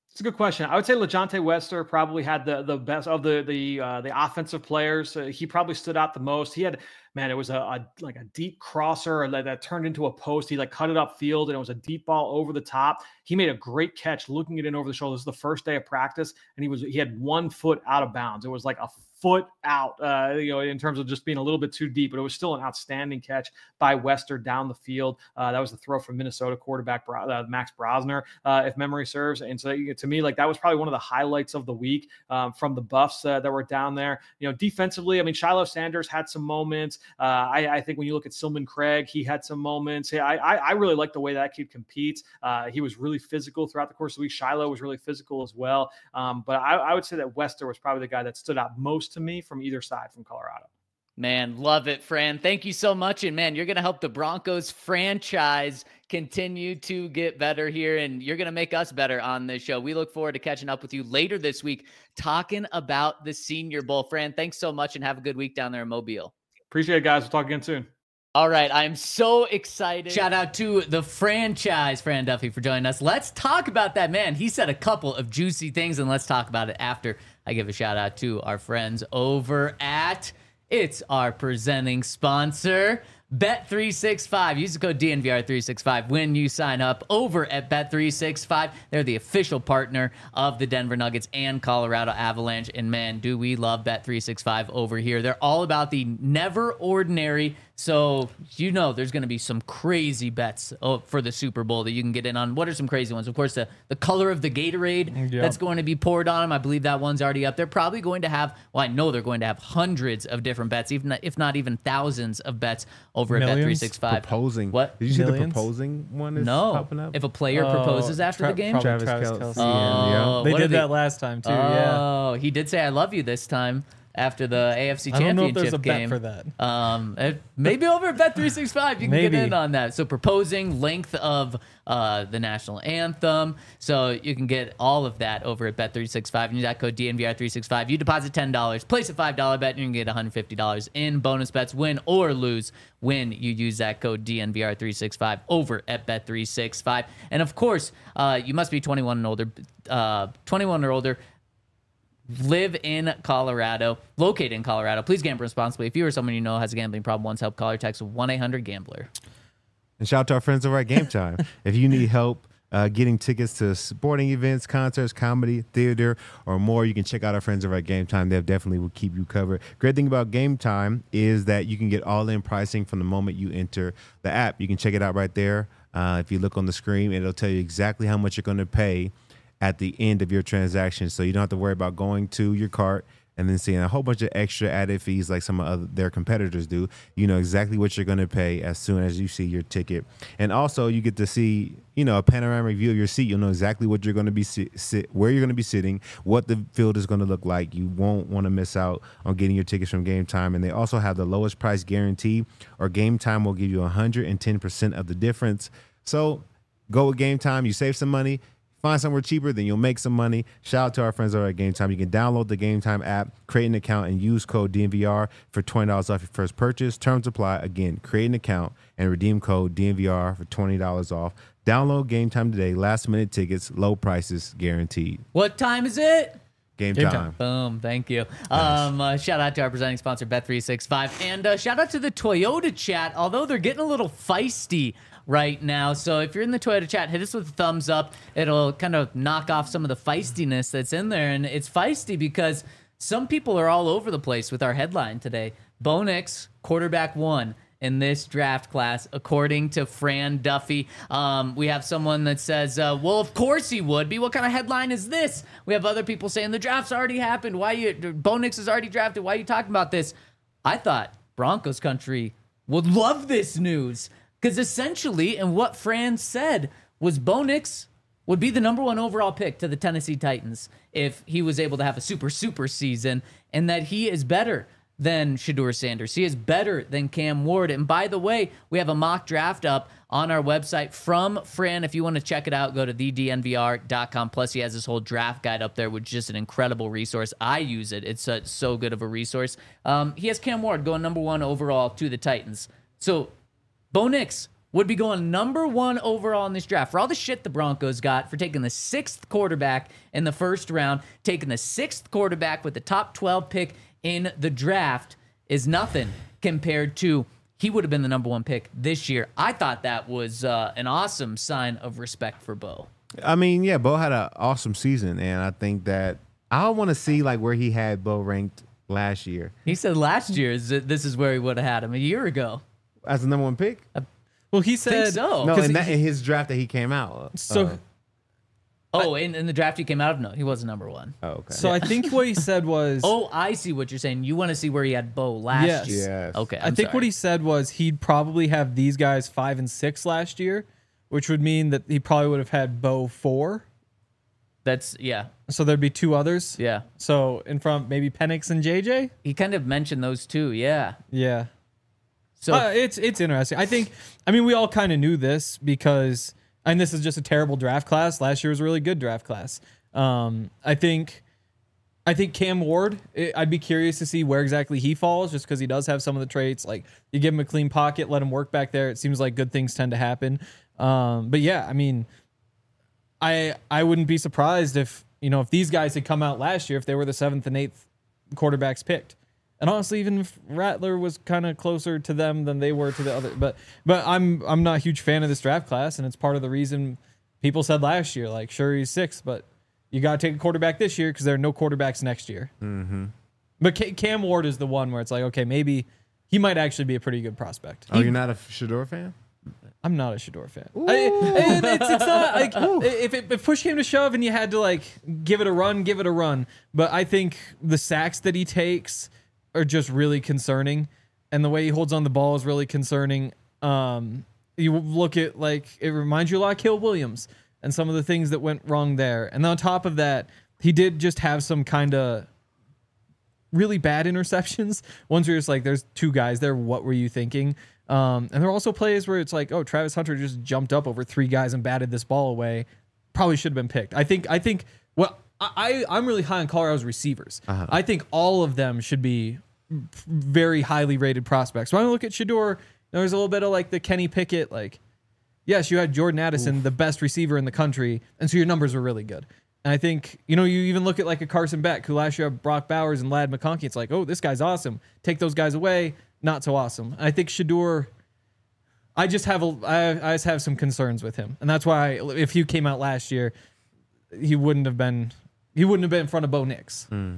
It's a good question. I would say LeJohntay Wester probably had the the best of the the uh, the offensive players. Uh, he probably stood out the most. He had, man, it was a, a like a deep crosser that, that turned into a post. He like cut it upfield, and it was a deep ball over the top. He made a great catch, looking it in over the shoulder. This is the first day of practice, and he was he had one foot out of bounds. It was like a foot out, uh, you know, in terms of just being a little bit too deep, but it was still an outstanding catch by Wester down the field. Uh, that was the throw from Minnesota quarterback uh, Max Brosner, uh, if memory serves. And so to me, like that was probably one of the highlights of the week um, from the Buffs uh, that were down there. You know, defensively, I mean, Shiloh Sanders had some moments. Uh, I, I think when you look at Silman Craig, he had some moments. Yeah, I, I, I really like the way that kid competes. Uh, he was really physical throughout the course of the week. Shiloh was really physical as well. Um, but I, I would say that Wester was probably the guy that stood out most to me from either side from Colorado. Man, love it, Fran. Thank you so much. And man, you're going to help the Broncos franchise continue to get better here, and you're going to make us better on this show. We look forward to catching up with you later this week, talking about the Senior Bowl. Fran, thanks so much, and have a good week down there in Mobile. Appreciate it, guys. We'll talk again soon. All right, I'm so excited. Shout out to the franchise, Fran Duffy, for joining us. Let's talk about that, man. He said a couple of juicy things, and let's talk about it after I give a shout out to our friends over at, it's our presenting sponsor, Bet three sixty-five. Use the code D N V R three sixty-five when you sign up over at Bet three sixty-five. They're the official partner of the Denver Nuggets and Colorado Avalanche. And man, do we love Bet three sixty-five over here. They're all about the never ordinary. So, you know, there's going to be some crazy bets for the Super Bowl that you can get in on. What are some crazy ones? Of course, the, the color of the Gatorade Yep. that's going to be poured on them. I believe that one's already up. They're probably going to have, well, I know they're going to have hundreds of different bets, even if not even thousands of bets over at Bet Millions? three sixty-five. Proposing. What? Did you see Millions? the proposing one is No. popping up? If a player Oh, proposes after Tra- the game? probably Travis Travis Kelce. Kelce. and, yeah. Oh, They what did are they- that last time too. yeah. Oh, he did say I love you this time after the A F C I don't know if Championship there's a bet game. for that. Um, if- maybe over at Bet three sixty-five, you can Maybe. get in on that. So proposing length of uh, the national anthem. So you can get all of that over at Bet three sixty-five. And use that code D N V R three sixty-five. You deposit ten dollars, place a five dollars bet, and you can get one hundred fifty dollars in bonus bets, win or lose, when you use that code D N V R three sixty-five over at Bet three sixty-five. And of course, uh, you must be twenty-one and older. Uh, twenty-one or older. Live in Colorado, located in Colorado. Please gamble responsibly. If you or someone you know has a gambling problem, once help, call or text one eight hundred gambler. And shout out to our friends over at Game Time. If you need help uh, getting tickets to sporting events, concerts, comedy, theater, or more, you can check out our friends over at Game Time. They definitely will keep you covered. Great thing about Game Time is that you can get all-in pricing from the moment you enter the app. You can check it out right there. Uh, if you look on the screen, it'll tell you exactly how much you're going to pay at the end of your transaction. So you don't have to worry about going to your cart and then seeing a whole bunch of extra added fees like some of other, their competitors do. You know exactly what you're going to pay as soon as you see your ticket. And also you get to see, you know, a panoramic view of your seat. You'll know exactly what you're going to be sit, sit where you're going to be sitting, what the field is going to look like. You won't want to miss out on getting your tickets from Game Time. And they also have the lowest price guarantee, or Game Time will give you one hundred ten percent of the difference. So go with Game Time. You save some money. Find somewhere cheaper, then you'll make some money. Shout out to our friends over at Game Time. You can download the Game Time app, create an account, and use code D N V R for twenty dollars off your first purchase. Terms apply. Again, create an account and redeem code D N V R for twenty dollars off. Download Game Time today. Last minute tickets, low prices guaranteed. What time is it? Game, Game time. Time. Boom. Thank you. Um, uh, shout out to our presenting sponsor, Bet three sixty-five. And uh, shout out to the Toyota chat, although they're getting a little feisty right now. So if you're in the Toyota chat, hit us with a thumbs up. It'll kind of knock off some of the feistiness that's in there. And it's feisty because some people are all over the place with our headline today. Bo Nix, quarterback one in this draft class, according to Fran Duffy. Um, we have someone that says, uh, well, of course he would be. What kind of headline is this? We have other people saying the draft's already happened. Why you, Bo Nix is already drafted. Why are you talking about this? I thought Broncos country would love this news, because essentially, and what Fran said was Bo Nix would be the number one overall pick to the Tennessee Titans if he was able to have a super, super season, and that he is better than Shedeur Sanders. He is better than Cam Ward. And by the way, we have a mock draft up on our website from Fran. If you want to check it out, go to the D N V R dot com. Plus, he has this whole draft guide up there, which is just an incredible resource. I use it. It's uh, so good of a resource. Um, he has Cam Ward going number one overall to the Titans. So Bo Nix would be going number one overall in this draft. For all the shit the Broncos got for taking the sixth quarterback in the first round, taking the sixth quarterback with the top twelve pick in the draft is nothing compared to he would have been the number one pick this year. I thought that was uh, an awesome sign of respect for Bo. I mean, yeah, Bo had an awesome season, and I think that I want to see like where he had Bo ranked last year He said last year is this is where he would have had him a year ago. as the number one pick. Well, he I think said so. No, 'cause in, he- that, in his draft that he came out. So, Uh, Oh, in, in the draft he came out of? No, he wasn't number one. oh, okay. so I think what he said was. Oh, I see what you're saying. You want to see where he had Bo last Yes. year. Yes. Okay, I I'm think sorry. what he said was he'd probably have these guys five and six last year, which would mean that he probably would have had Bo four. That's, yeah, So there'd be two others. yeah. So in front, maybe Penix and J J. He kind of mentioned those two, yeah. Yeah. So Uh, it's it's interesting. I think. I mean, we all kind of knew this because, and this is just a terrible draft class. Last year was a really good draft class. Um, I think. I think Cam Ward. i- I'd be curious to see where exactly he falls, just because he does have some of the traits. Like you give him a clean pocket, let him work back there. It seems like good things tend to happen. Um, but yeah, I mean, I I wouldn't be surprised if you know if these guys had come out last year if they were the seventh and eighth quarterbacks picked. And honestly, even if Rattler was kind of closer to them than they were to the other, but but I'm I'm not a huge fan of this draft class, and it's part of the reason people said last year, like, sure he's six, but you got to take a quarterback this year because there are no quarterbacks next year. Mm-hmm. But Ca- Cam Ward is the one where it's like, okay, maybe he might actually be a pretty good prospect. oh, you're not a Shador fan? I'm not a Shador fan. I, and it's, it's not like if, it, if push came to shove and you had to like give it a run, give it a run. But I think the sacks that he takes are just really concerning, and the way he holds on the ball is really concerning. Um, you look at like it reminds you a lot of Kill Williams and some of the things that went wrong there. And on top of that, he did just have some kind of really bad interceptions. Ones where it's like, there's two guys there. What were you thinking? Um, and there are also plays where it's like, oh, Travis Hunter just jumped up over three guys and batted this ball away. Probably should have been picked. I think. I think. Well, I I'm really high on Colorado's receivers. Uh-huh. I think all of them should be very highly rated prospects. When I look at Shador, there's a little bit of like the Kenny Pickett. Like, yes, you had Jordan Addison, Oof. the best receiver in the country, and so your numbers were really good. And I think, you know, you even look at like a Carson Beck, who last year had Brock Bowers and Ladd McConkey. It's like, oh, this guy's awesome. Take those guys away, not so awesome. I think Shador, I just have a, I, I just have some concerns with him, and that's why if he came out last year, he wouldn't have been, he wouldn't have been in front of Bo Nix. Mm.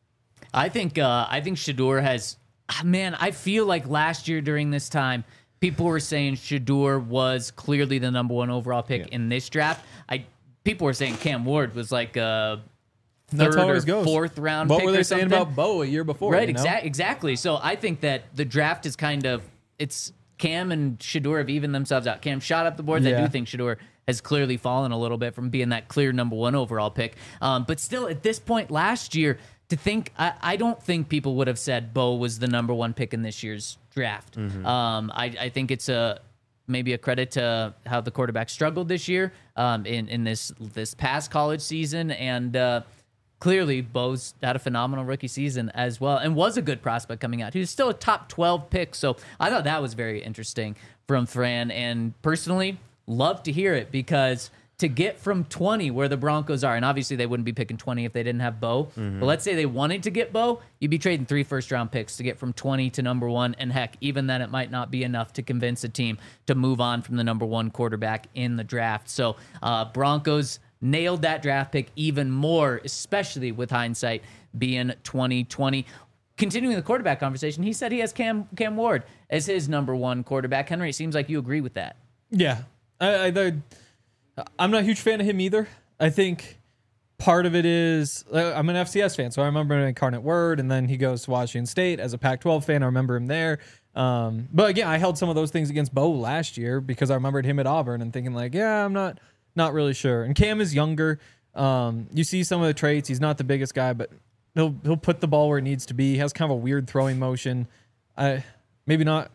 I think uh, I think Shador has, ah, man, I feel like last year during this time, people were saying Shador was clearly the number one overall pick Yeah. in this draft. I people were saying Cam Ward was like a That's third how it or always goes. fourth round What pick were they or saying something. about Bo a year before? Right, you know? exact, exactly. So I think that the draft is kind of, it's Cam and Shador have evened themselves out. Cam shot up the boards. I Yeah. do think Shador has clearly fallen a little bit from being that clear number one overall pick. Um, but still, at this point last year, to think, I, I don't think people would have said Bo was the number one pick in this year's draft. Mm-hmm. Um, I, I think it's a maybe a credit to how the quarterback struggled this year um, in in this this past college season, and uh, clearly Bo's had a phenomenal rookie season as well, and was a good prospect coming out. He was still a top twelve pick, so I thought that was very interesting from Fran, and personally, love to hear it because to get from twenty where the Broncos are, and obviously they wouldn't be picking twenty if they didn't have Bo, Mm-hmm. but let's say they wanted to get Bo, you'd be trading three first round picks to get from twenty to number one, and heck, even then it might not be enough to convince a team to move on from the number one quarterback in the draft. So uh, Broncos nailed that draft pick even more, especially with hindsight being twenty twenty. Continuing the quarterback conversation, he said he has Cam Cam Ward as his number one quarterback. Henry, it seems like you agree with that. Yeah, I, I, the, I'm not a huge fan of him either. I think part of it is uh, I'm an F C S fan, so I remember him in Incarnate Word, and then he goes to Washington State as a Pac twelve fan. I remember him there. Um, but again, I held some of those things against Bo last year because I remembered him at Auburn and thinking like, yeah, I'm not not really sure. And Cam is younger. Um, you see some of the traits. He's not the biggest guy, but he'll he'll put the ball where it needs to be. He has kind of a weird throwing motion. I maybe not.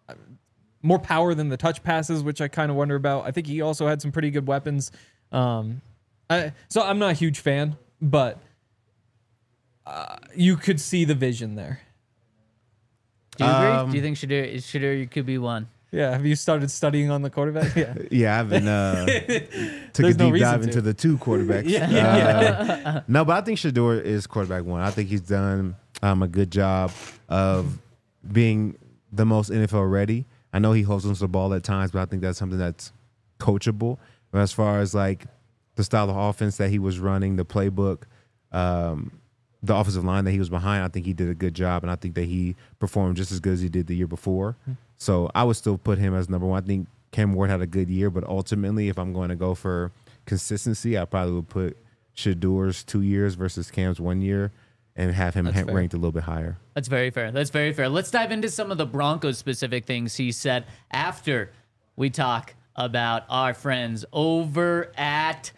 More power than the touch passes, which I kind of wonder about. I think he also had some pretty good weapons. Um, I, so I'm not a huge fan, but uh, you could see the vision there. Do you agree? Um, Do you think Shador, Shador could be one? Yeah. Have you started studying on the quarterback? Yeah. Yeah, I've been uh, took a There's no deep reason dive to. into the two quarterbacks. Yeah, Uh, yeah, no, but I think Shador is quarterback one. I think he's done um, a good job of being the most N F L ready. I know he holds onto the ball at times, but I think that's something that's coachable. But as far as like the style of offense that he was running, the playbook, um, the offensive line that he was behind, I think he did a good job, and I think that he performed just as good as he did the year before. So I would still put him as number one. I think Cam Ward had a good year, but ultimately, if I'm going to go for consistency, I probably would put Shador's two years versus Cam's one year and have him ha- fair. ranked a little bit higher. That's very fair. That's very fair. Let's dive into some of the Broncos specific things he said after we talk about our friends over at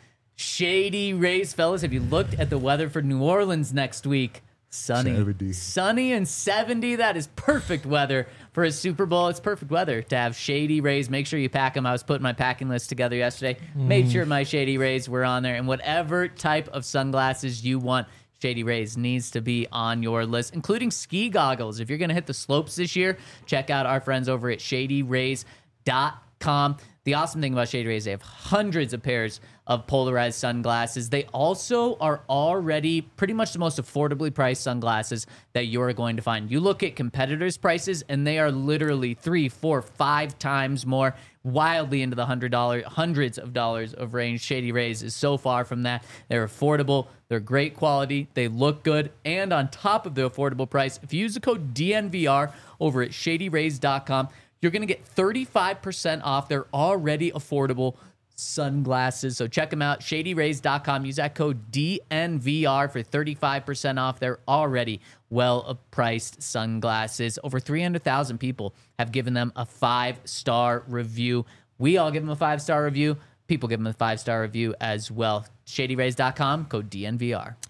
Shady Rays. Fellas, have you looked at the weather for New Orleans next week? Sunny. seventy. Sunny and seventy. That is perfect weather for a Super Bowl. It's perfect weather to have Shady Rays. Make sure you pack them. I was putting my packing list together yesterday. Made sure my Shady Rays were on there. And whatever type of sunglasses you want, Shady Rays needs to be on your list, including ski goggles. If you're going to hit the slopes this year, check out our friends over at shady rays dot com. The awesome thing about Shady Rays, they have hundreds of pairs of polarized sunglasses. They also are already pretty much the most affordably priced sunglasses that you're going to find. You look at competitors' prices, and they are literally three, four, five times more, wildly into the hundred dollar, hundreds of dollars of range. Shady Rays is so far from that. They're affordable. They're great quality. They look good. And on top of the affordable price, if you use the code D N V R over at shady rays dot com, you're going to get thirty-five percent off their already affordable sunglasses. So check them out, shady rays dot com. Use that code D N V R for thirty-five percent off their already well-priced sunglasses. Over three hundred thousand people have given them a five-star review. We all give them a five-star review. People give them a five-star review as well. shady rays dot com, code D N V R.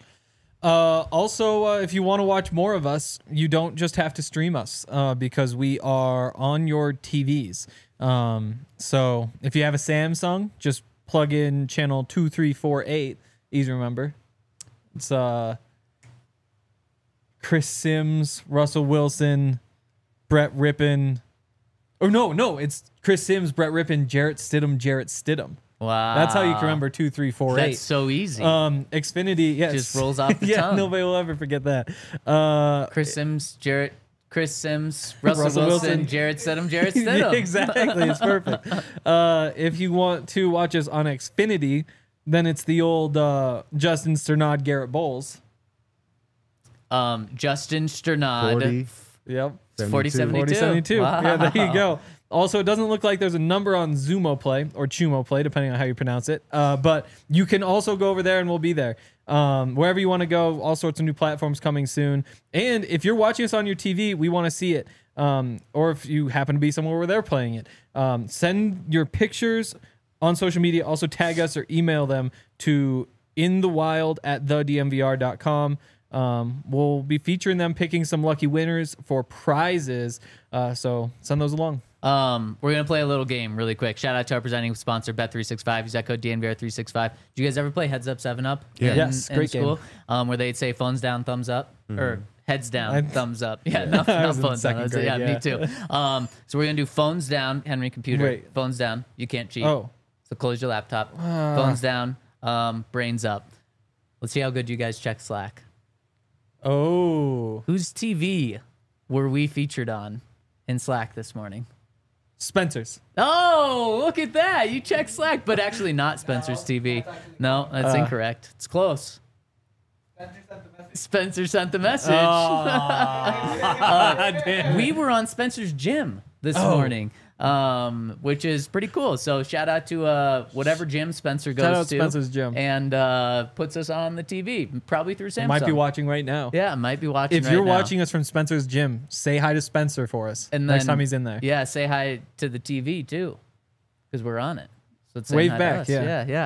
Uh, also, uh, if you want to watch more of us, you don't just have to stream us uh, because we are on your T Vs. Um, so if you have a Samsung, just plug in channel two three four eight. Easy to remember. It's uh, Chris Sims, Russell Wilson, Brett Rippon. Or no, no, it's Chris Sims, Brett Rippon, Jarrett Stidham, Jarrett Stidham. Wow. That's how you can remember two three four eight. That's so easy. Um, Xfinity, yes. Just rolls off the yeah, tongue. nobody will ever forget that. Uh, Chris Sims, Jarrett, Chris Sims, Russell, Russell Wilson, Wilson. Jarrett Stidham, Jarrett Stidham. yeah, exactly, it's perfect. Uh, if you want to watch us on Xfinity, then it's the old uh, Justin Sternad, Garrett Bowles. Um, Justin Sternad. forty, Yep. forty seventy-two. forty seventy-two. Wow. Yeah, there you go. Also, it doesn't look like there's a number on Zumo Play or Chumo Play, depending on how you pronounce it. Uh, but you can also go over there and we'll be there. Um, wherever you want to go, all sorts of new platforms coming soon. And if you're watching us on your T V, we want to see it. Um, or if you happen to be somewhere where they're playing it, um, send your pictures on social media. Also tag us or email them to inthewild at the d m v r dot com. Um, we'll be featuring them, picking some lucky winners for prizes. Uh, so send those along. Um, we're gonna play a little game really quick. Shout out to our presenting sponsor, Bet three sixty-five. Use that code D N V R three sixty-five. Did you guys ever play Heads Up Seven Up? Yeah. in, Yes, in great school? game. Um, where they'd say phones down, thumbs up, or heads down, I- thumbs up. Yeah, not, I not was in phones down. second That's- grade, yeah, yeah. me too. Um, so we're gonna do phones down, Henry computer. Wait. Phones down. You can't cheat. Oh. So close your laptop. Phones down. Um, brains up. Let's see how good you guys check Slack. Oh, Whose T V were we featured on in Slack this morning? Spencer's. Oh, look at that. You check Slack, but actually not Spencer's T V. No, that's Uh, incorrect. It's close. Spencer sent the message. Damn. We were on Spencer's gym this Oh. morning, um, which is pretty cool. So shout out to uh, whatever gym Spencer goes Shout out to. Spencer's gym. And uh, puts us on the T V, probably through Samsung. Might be watching right now. Yeah, might be watching If right you're now. watching us from Spencer's gym, say hi to Spencer for us And next then- time he's in there. Yeah, say hi to the T V too, because we're on it. So it's saying Wave hi to back, us. yeah. yeah,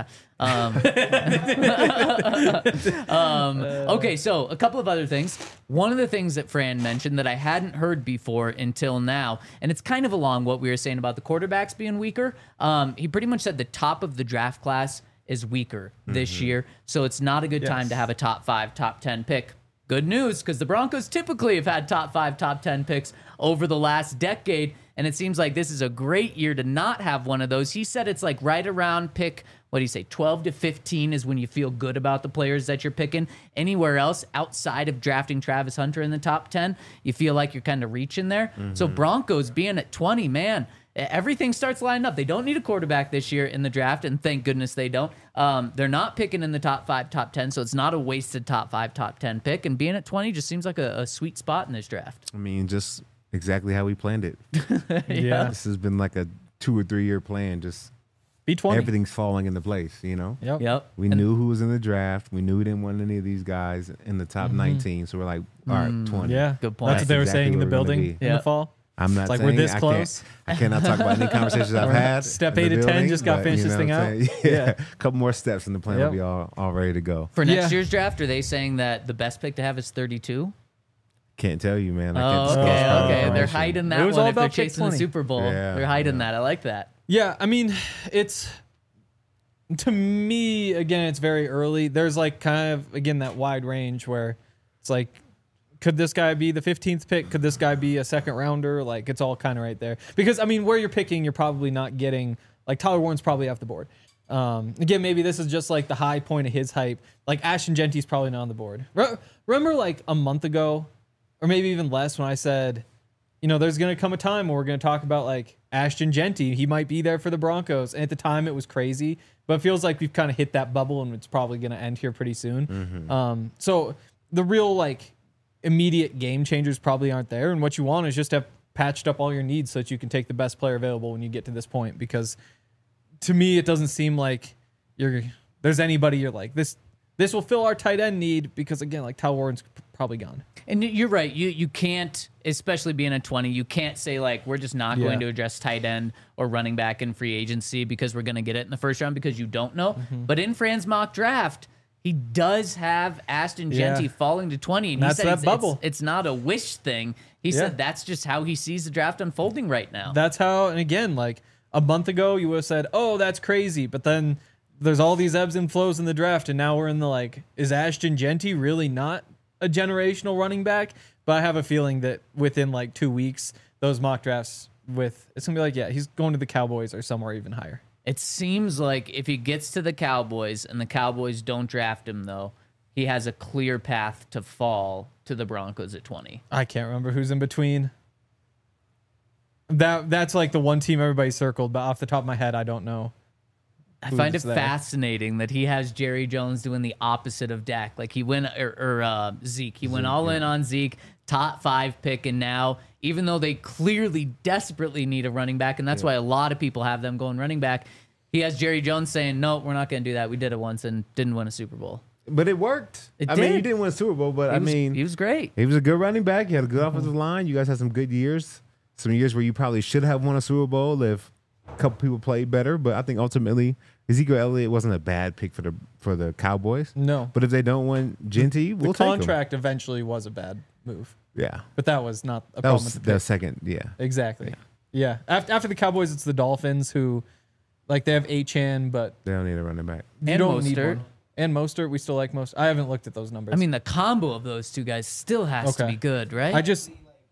yeah. Um, um, okay, so a couple of other things. One of the things that Fran mentioned that I hadn't heard before until now, and it's kind of along what we were saying about the quarterbacks being weaker. Um, he pretty much said the top of the draft class is weaker this year, so it's not a good Yes. time to have a top five, top ten pick. Good news, because the Broncos typically have had top five, top ten picks over the last decade. And it seems like this is a great year to not have one of those. He said it's like right around pick, what do you say, twelve to fifteen is when you feel good about the players that you're picking. Anywhere else outside of drafting Travis Hunter in the top ten, you feel like you're kind of reaching there. Mm-hmm. So Broncos being at twenty, man, everything starts lining up. They don't need a quarterback this year in the draft, and thank goodness they don't. Um, they're not picking in the top five, top ten, so it's not a wasted top five, top ten pick. And being at twenty just seems like a, a sweet spot in this draft. I mean, just exactly how we planned it. Yeah. This has been like a two or three year plan. Just B twenty. everything's falling into place, you know? Yep. Yep. We And- knew who was in the draft. We knew we didn't want any of these guys in the top nineteen. So we're like, all right, twenty. Yeah. Good point. That's what they were Exactly saying in the where we're gonna building be. in Yeah. the fall. I'm not It's like, saying we're this I close. Can't, I cannot talk about any conversations I've We're had. step in the eight to ten, building, just gotta but, finish you this know thing what I'm out. saying? Yeah. Yeah. A couple more steps and the plan Yep. will be all, all ready to go. For next Yeah. year's draft, are they saying that the best pick to have is thirty-two? Can't tell you, man. I Oh, can't okay, disclose that okay. They're information. hiding It that was one all if they're about pick chasing the twenty. Super Bowl. Yeah, They're hiding yeah. that. I like that. Yeah, I mean, it's to me again. It's very early. There's like kind of again that wide range where it's like, could this guy be the fifteenth pick? Could this guy be a second rounder? Like it's all kind of right there. Because I mean, where you're picking, you're probably not getting like Tyler Warren's probably off the board. Um, again, maybe this is just like the high point of his hype. Like Ashton Genty's probably not on the board. Re- remember like a month ago, or maybe even less, when I said, you know, there's going to come a time where we're going to talk about like Ashton Genty. He might be there for the Broncos. And at the time it was crazy, but it feels like we've kind of hit that bubble and it's probably going to end here pretty soon. Mm-hmm. Um, so the real like immediate game changers probably aren't there. And what you want is just to have patched up all your needs so that you can take the best player available when you get to this point. Because to me, it doesn't seem like you're there's anybody you're like, this, this will fill our tight end need because again, like Tyler Warren's probably gone. And you're right. You you can't, especially being at twenty, you can't say like we're just not Yeah. going to address tight end or running back in free agency because we're going to get it in the first round because you don't know. Mm-hmm. But in Fran's mock draft, he does have Ashton Yeah. Genty falling to twenty, and That's he said that it's, bubble. It's, it's not a wish thing. He Yeah. said that's just how he sees the draft unfolding right now. That's how, and again, like a month ago, you would have said, oh, that's crazy. But then there's all these ebbs and flows in the draft. And now we're in the like, is Ashton Genty really not a generational running back? But I have a feeling that within like two weeks, those mock drafts with, it's going to be like, yeah, he's going to the Cowboys or somewhere even higher. It seems like if he gets to the Cowboys and the Cowboys don't draft him, though, he has a clear path to fall to the Broncos at twenty. I can't remember who's in between. That That's like the one team everybody circled, but off the top of my head, I don't know. I find it Who's there? fascinating that he has Jerry Jones doing the opposite of Dak. Like he went, or, or uh, Zeke. He went all in on Zeke, top five pick, and now, even though they clearly desperately need a running back, and that's why a lot of people have them going running back, he has Jerry Jones saying, no, we're not going to do that. We did it once and didn't win a Super Bowl. But it worked. It I mean, did. you didn't win a Super Bowl, but He I was, mean, he was great. he was a good running back. He had a good offensive line. You guys had some good years. Some years where you probably should have won a Super Bowl if a couple people played better. But I think ultimately Ezekiel Elliott wasn't a bad pick for the for the Cowboys. No. But if they don't win Genty, we'll The take him. contract eventually was a bad move, Yeah, but that was not a that problem was with the the pick. second. Yeah, Exactly. Yeah. After, after the Cowboys, it's the Dolphins who, like, they have Achan, but they don't need a running back. you And don't need Mostert. one. And Mostert, we still like most. I haven't looked at those numbers. I mean, the combo of those two guys still has to Okay. be good, right? I just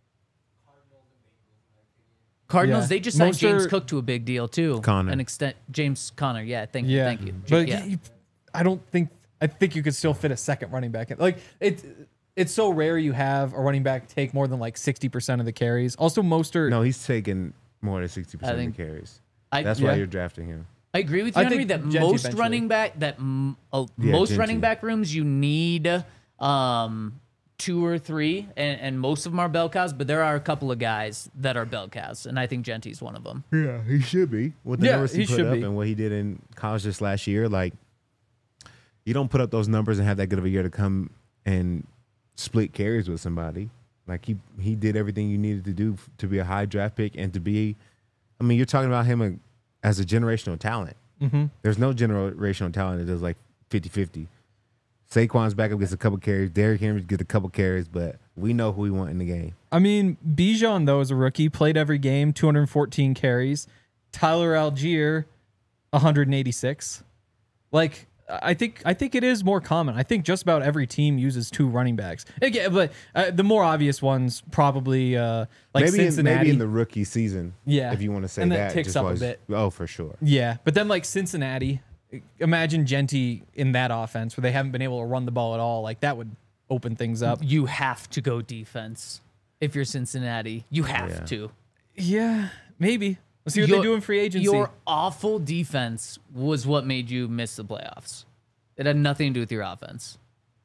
Cardinals, yeah. they just signed James Mostert- Cook to a big deal, too. Connor. An extent, James Connor, yeah, thank you, yeah. thank you. But yeah. you- I don't think I think you could still fit a second running back in. Like it, it's so rare you have a running back take more than like sixty percent of the carries. Also, Mostert. No, he's taking more than sixty I percent of think- the carries. I- That's yeah. why you're drafting him. I agree with you, I Henry, think that Genty most eventually. running back, that m- uh, Yeah, most Genty. running back rooms, you need um, two or three, and, and most of them are bell cows, but there are a couple of guys that are bell cows, and I think Genty's one of them. Yeah, he should be. With the Yeah, numbers he, he put should up be. and what he did in college this last year, like you don't put up those numbers and have that good of a year to come and split carries with somebody. Like he he did everything you needed to do f- to be a high draft pick and to be. I mean, you're talking about him a, as a generational talent. Mm-hmm. There's no generational talent that does like fifty-fifty. Saquon's backup gets a couple carries. Derrick Henry gets a couple carries, but we know who we want in the game. I mean, Bijan though as a rookie played every game, two hundred fourteen carries. Tyler Algier, one hundred eighty-six. Like I think I think it is more common. I think just about every team uses two running backs. Again, but uh, the more obvious ones probably uh, like maybe in, Cincinnati. maybe in the rookie season. Yeah. if you want to say And then that, it ticks just up a was- bit. Oh, for sure. Yeah, but then like Cincinnati, imagine Genty in that offense where they haven't been able to run the ball at all. Like that would open things up. You have to go defense if you're Cincinnati. You have Yeah. to. Yeah, maybe. Let's see what Your- they do in free agency. Your awful defense was what made you miss the playoffs. It had nothing to do with your offense.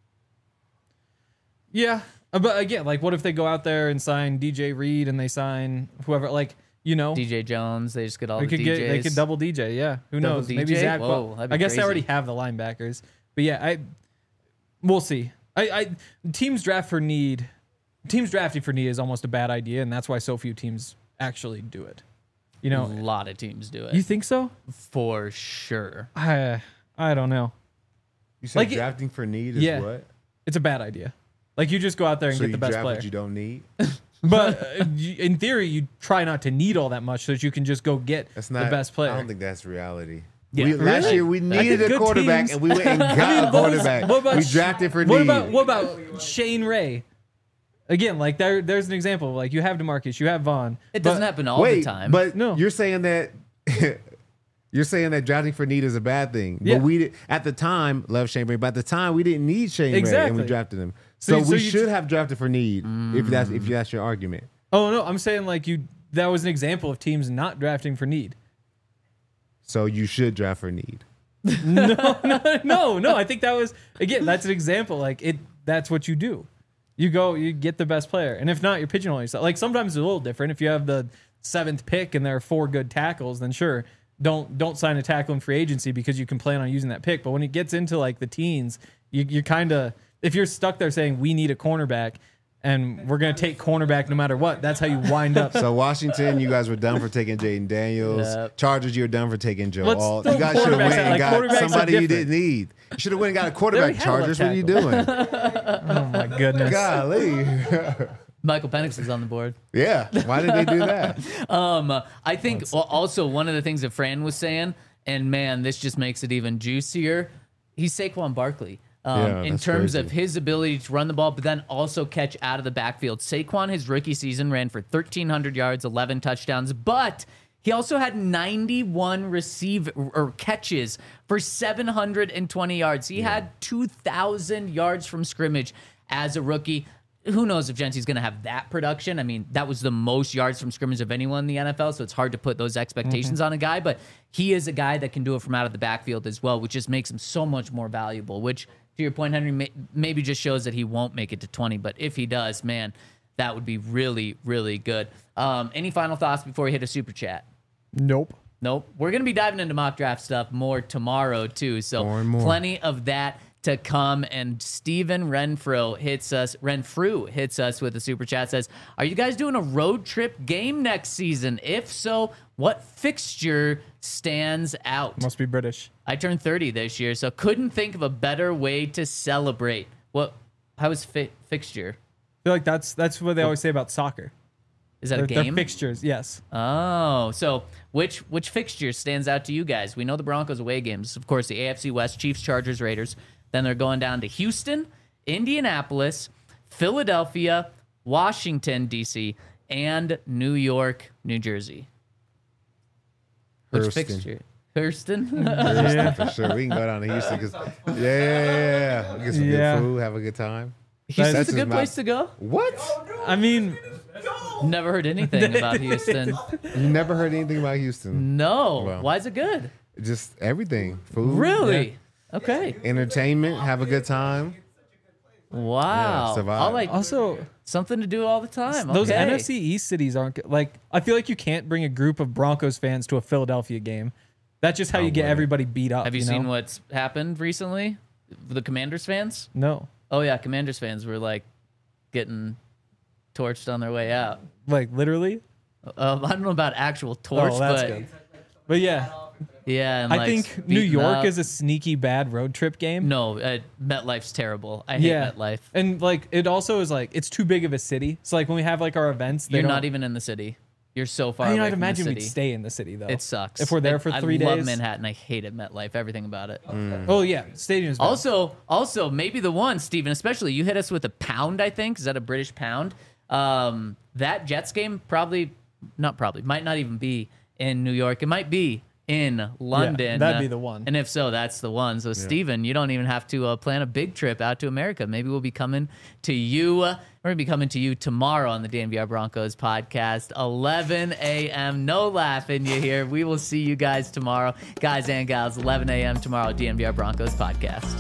Yeah, uh, but again, like, what if they go out there and sign D J Reed and they sign whoever? Like, you know, D J Jones, they just get all they the could D Js. get they could double D J. Yeah, who Double knows? D J? Maybe Zach. Whoa, Well, that'd be I guess they crazy. already have the linebackers, but yeah, I we'll see. I, I teams draft for need. Teams drafting for need is almost a bad idea, and that's why so few teams actually do it. You A know, lot of teams do it. you think so? for sure. I I don't know. You said Like it- drafting for need is Yeah. what? It's a bad idea. Like you just go out there and So get you the best draft player. what you don't need. But uh, you- in theory, you try not to need all that much so that you can just go get That's not the best player. I don't think that's reality. Yeah. we, Last Really? year we I think needed a good quarterback teams- and we went and got I mean, a what was- quarterback. what about we Sh- drafted for What need. about what about Shane Ray? Again, like there, there's an example. Like you have DeMarcus, you have Vaughn. It but- doesn't happen all Wait, the time. but No. you're saying that you're saying that drafting for need is a bad thing. Yeah. But we did, at the time love Shane Ray, but at the time we didn't need Shane Ray and Exactly. we drafted him. So- So, so we you- should have drafted for need if that's Mm. if that's your argument. Oh no, I'm saying like you. That was an example of teams not drafting for need. So you should draft for need. no, no. I think that was again. That's an example. Like it. That's what you do. You go. You get the best player, and if not, you're pigeonholing yourself. Like sometimes it's a little different. If you have the seventh pick and there are four good tackles, then sure, don't don't sign a tackle in free agency because you can plan on using that pick. But when it gets into like the teens, you, you're kind of if you're stuck there saying we need a cornerback and we're gonna take cornerback no matter what. That's how you wind up. So Washington, you guys were done for taking Jaden Daniels. Yep. Chargers, you were done for taking Joe Let's Alt. throw You guys should have quarterbacks went out. and Like, got quarterbacks are somebody you different. didn't need. You should have went and got a already quarterback. had a Chargers, what are you doing? Oh my goodness. Golly. Michael Penix is on the board. Yeah. Why did they do that? Um, uh, I think well, also one of the things that Fran was saying, and man, this just makes it even juicier. He's Saquon Barkley. Um, Yeah, in that's terms crazy. of his ability to run the ball, but then also catch out of the backfield. Saquon, his rookie season, ran for thirteen hundred yards, eleven touchdowns, but he also had ninety-one receive or catches for seven hundred twenty yards. He had two thousand yards from scrimmage as a rookie. Who knows if Genty's going to have that production? I mean, that was the most yards from scrimmage of anyone in the N F L, so it's hard to put those expectations on a guy, but he is a guy that can do it from out of the backfield as well, which just makes him so much more valuable, which, to your point, Henry, may, maybe just shows that he won't make it to twenty, but if he does, man, that would be really, really good. Um, any final thoughts before we hit a super chat? Nope. Nope. We're going to be diving into mock draft stuff more tomorrow, too. So More and more. plenty of that to come. And Steven Renfro hits us, Renfrew hits us with a super chat, says, are you guys doing a road trip game next season? If so, what fixture stands out? Must be British. I turned thirty this year, so couldn't think of a better way to celebrate. What? How was fi- fixture? I feel like that's that's what they always say about soccer. Is that They're, a they're game? fixtures, yes. Oh, so which which fixture stands out to you guys? We know the Broncos away games, of course, the A F C West, Chiefs, Chargers, Raiders. Then they're going down to Houston, Indianapolis, Philadelphia, Washington, D C, and New York, New Jersey. Which Hurston. fixture? Hurston? Houston for sure. We can go down to Houston because yeah, yeah, yeah, yeah. Get some Yeah. good food, have a good time. Houston's That's a good just place not- to go. What? I mean, Never heard anything about Houston. You never heard anything about Houston? No. Well. Why is it good? Just everything. Food. Really? Okay. Entertainment. Have a good time. Wow. survive. All like also something to do all the time. those Okay. N F C East cities aren't good. Like I feel like you can't bring a group of Broncos fans to a Philadelphia game. That's just how you get wouldn't. everybody beat up. Have you, you seen know? what's happened recently? The Commanders fans? No, Oh yeah, Commanders fans were like getting torched on their way out. like literally. Um, I don't know about actual torch, Oh, that's but good. But yeah, yeah. And I like think New beaten York up. is a sneaky bad road trip game. no. Uh, MetLife's terrible. I hate Yeah, MetLife. and like it also is like it's too big of a city. So like when we have like our events, they You're don't- not even in the city. You're so far I mean, away I'd from the imagine we'd city. stay in the city though. It sucks. if we're there It- for three I love days. Manhattan. I hated MetLife. Everything about it. Oh yeah, stadium's bad. Also, also maybe the one, Steven, especially you hit us with a pound, I think. Is that a British pound? Um, that Jets game probably, not probably, might not even be in New York. It might be in London. that'd be the one. And if so, that's the one. So, Steven, you don't even have to uh, plan a big trip out to America. Maybe we'll be coming to you. Uh, we're going to be coming to you tomorrow on the D N V R Broncos podcast, eleven a.m. No laughing you here. We will see you guys tomorrow. Guys and gals, eleven a.m. tomorrow, D N V R Broncos podcast.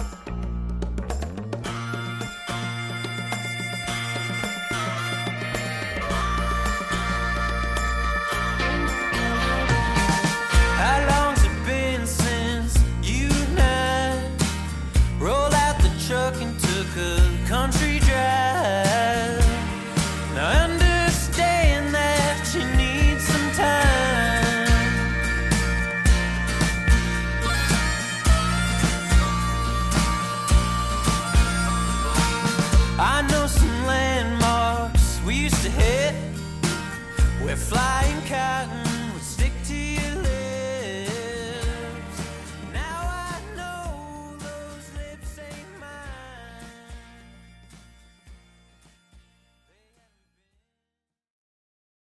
How long's it been since you and I rolled out the truck and took a country drive? Now I understand that you need some time. I know some landmarks we used to hit. We're flying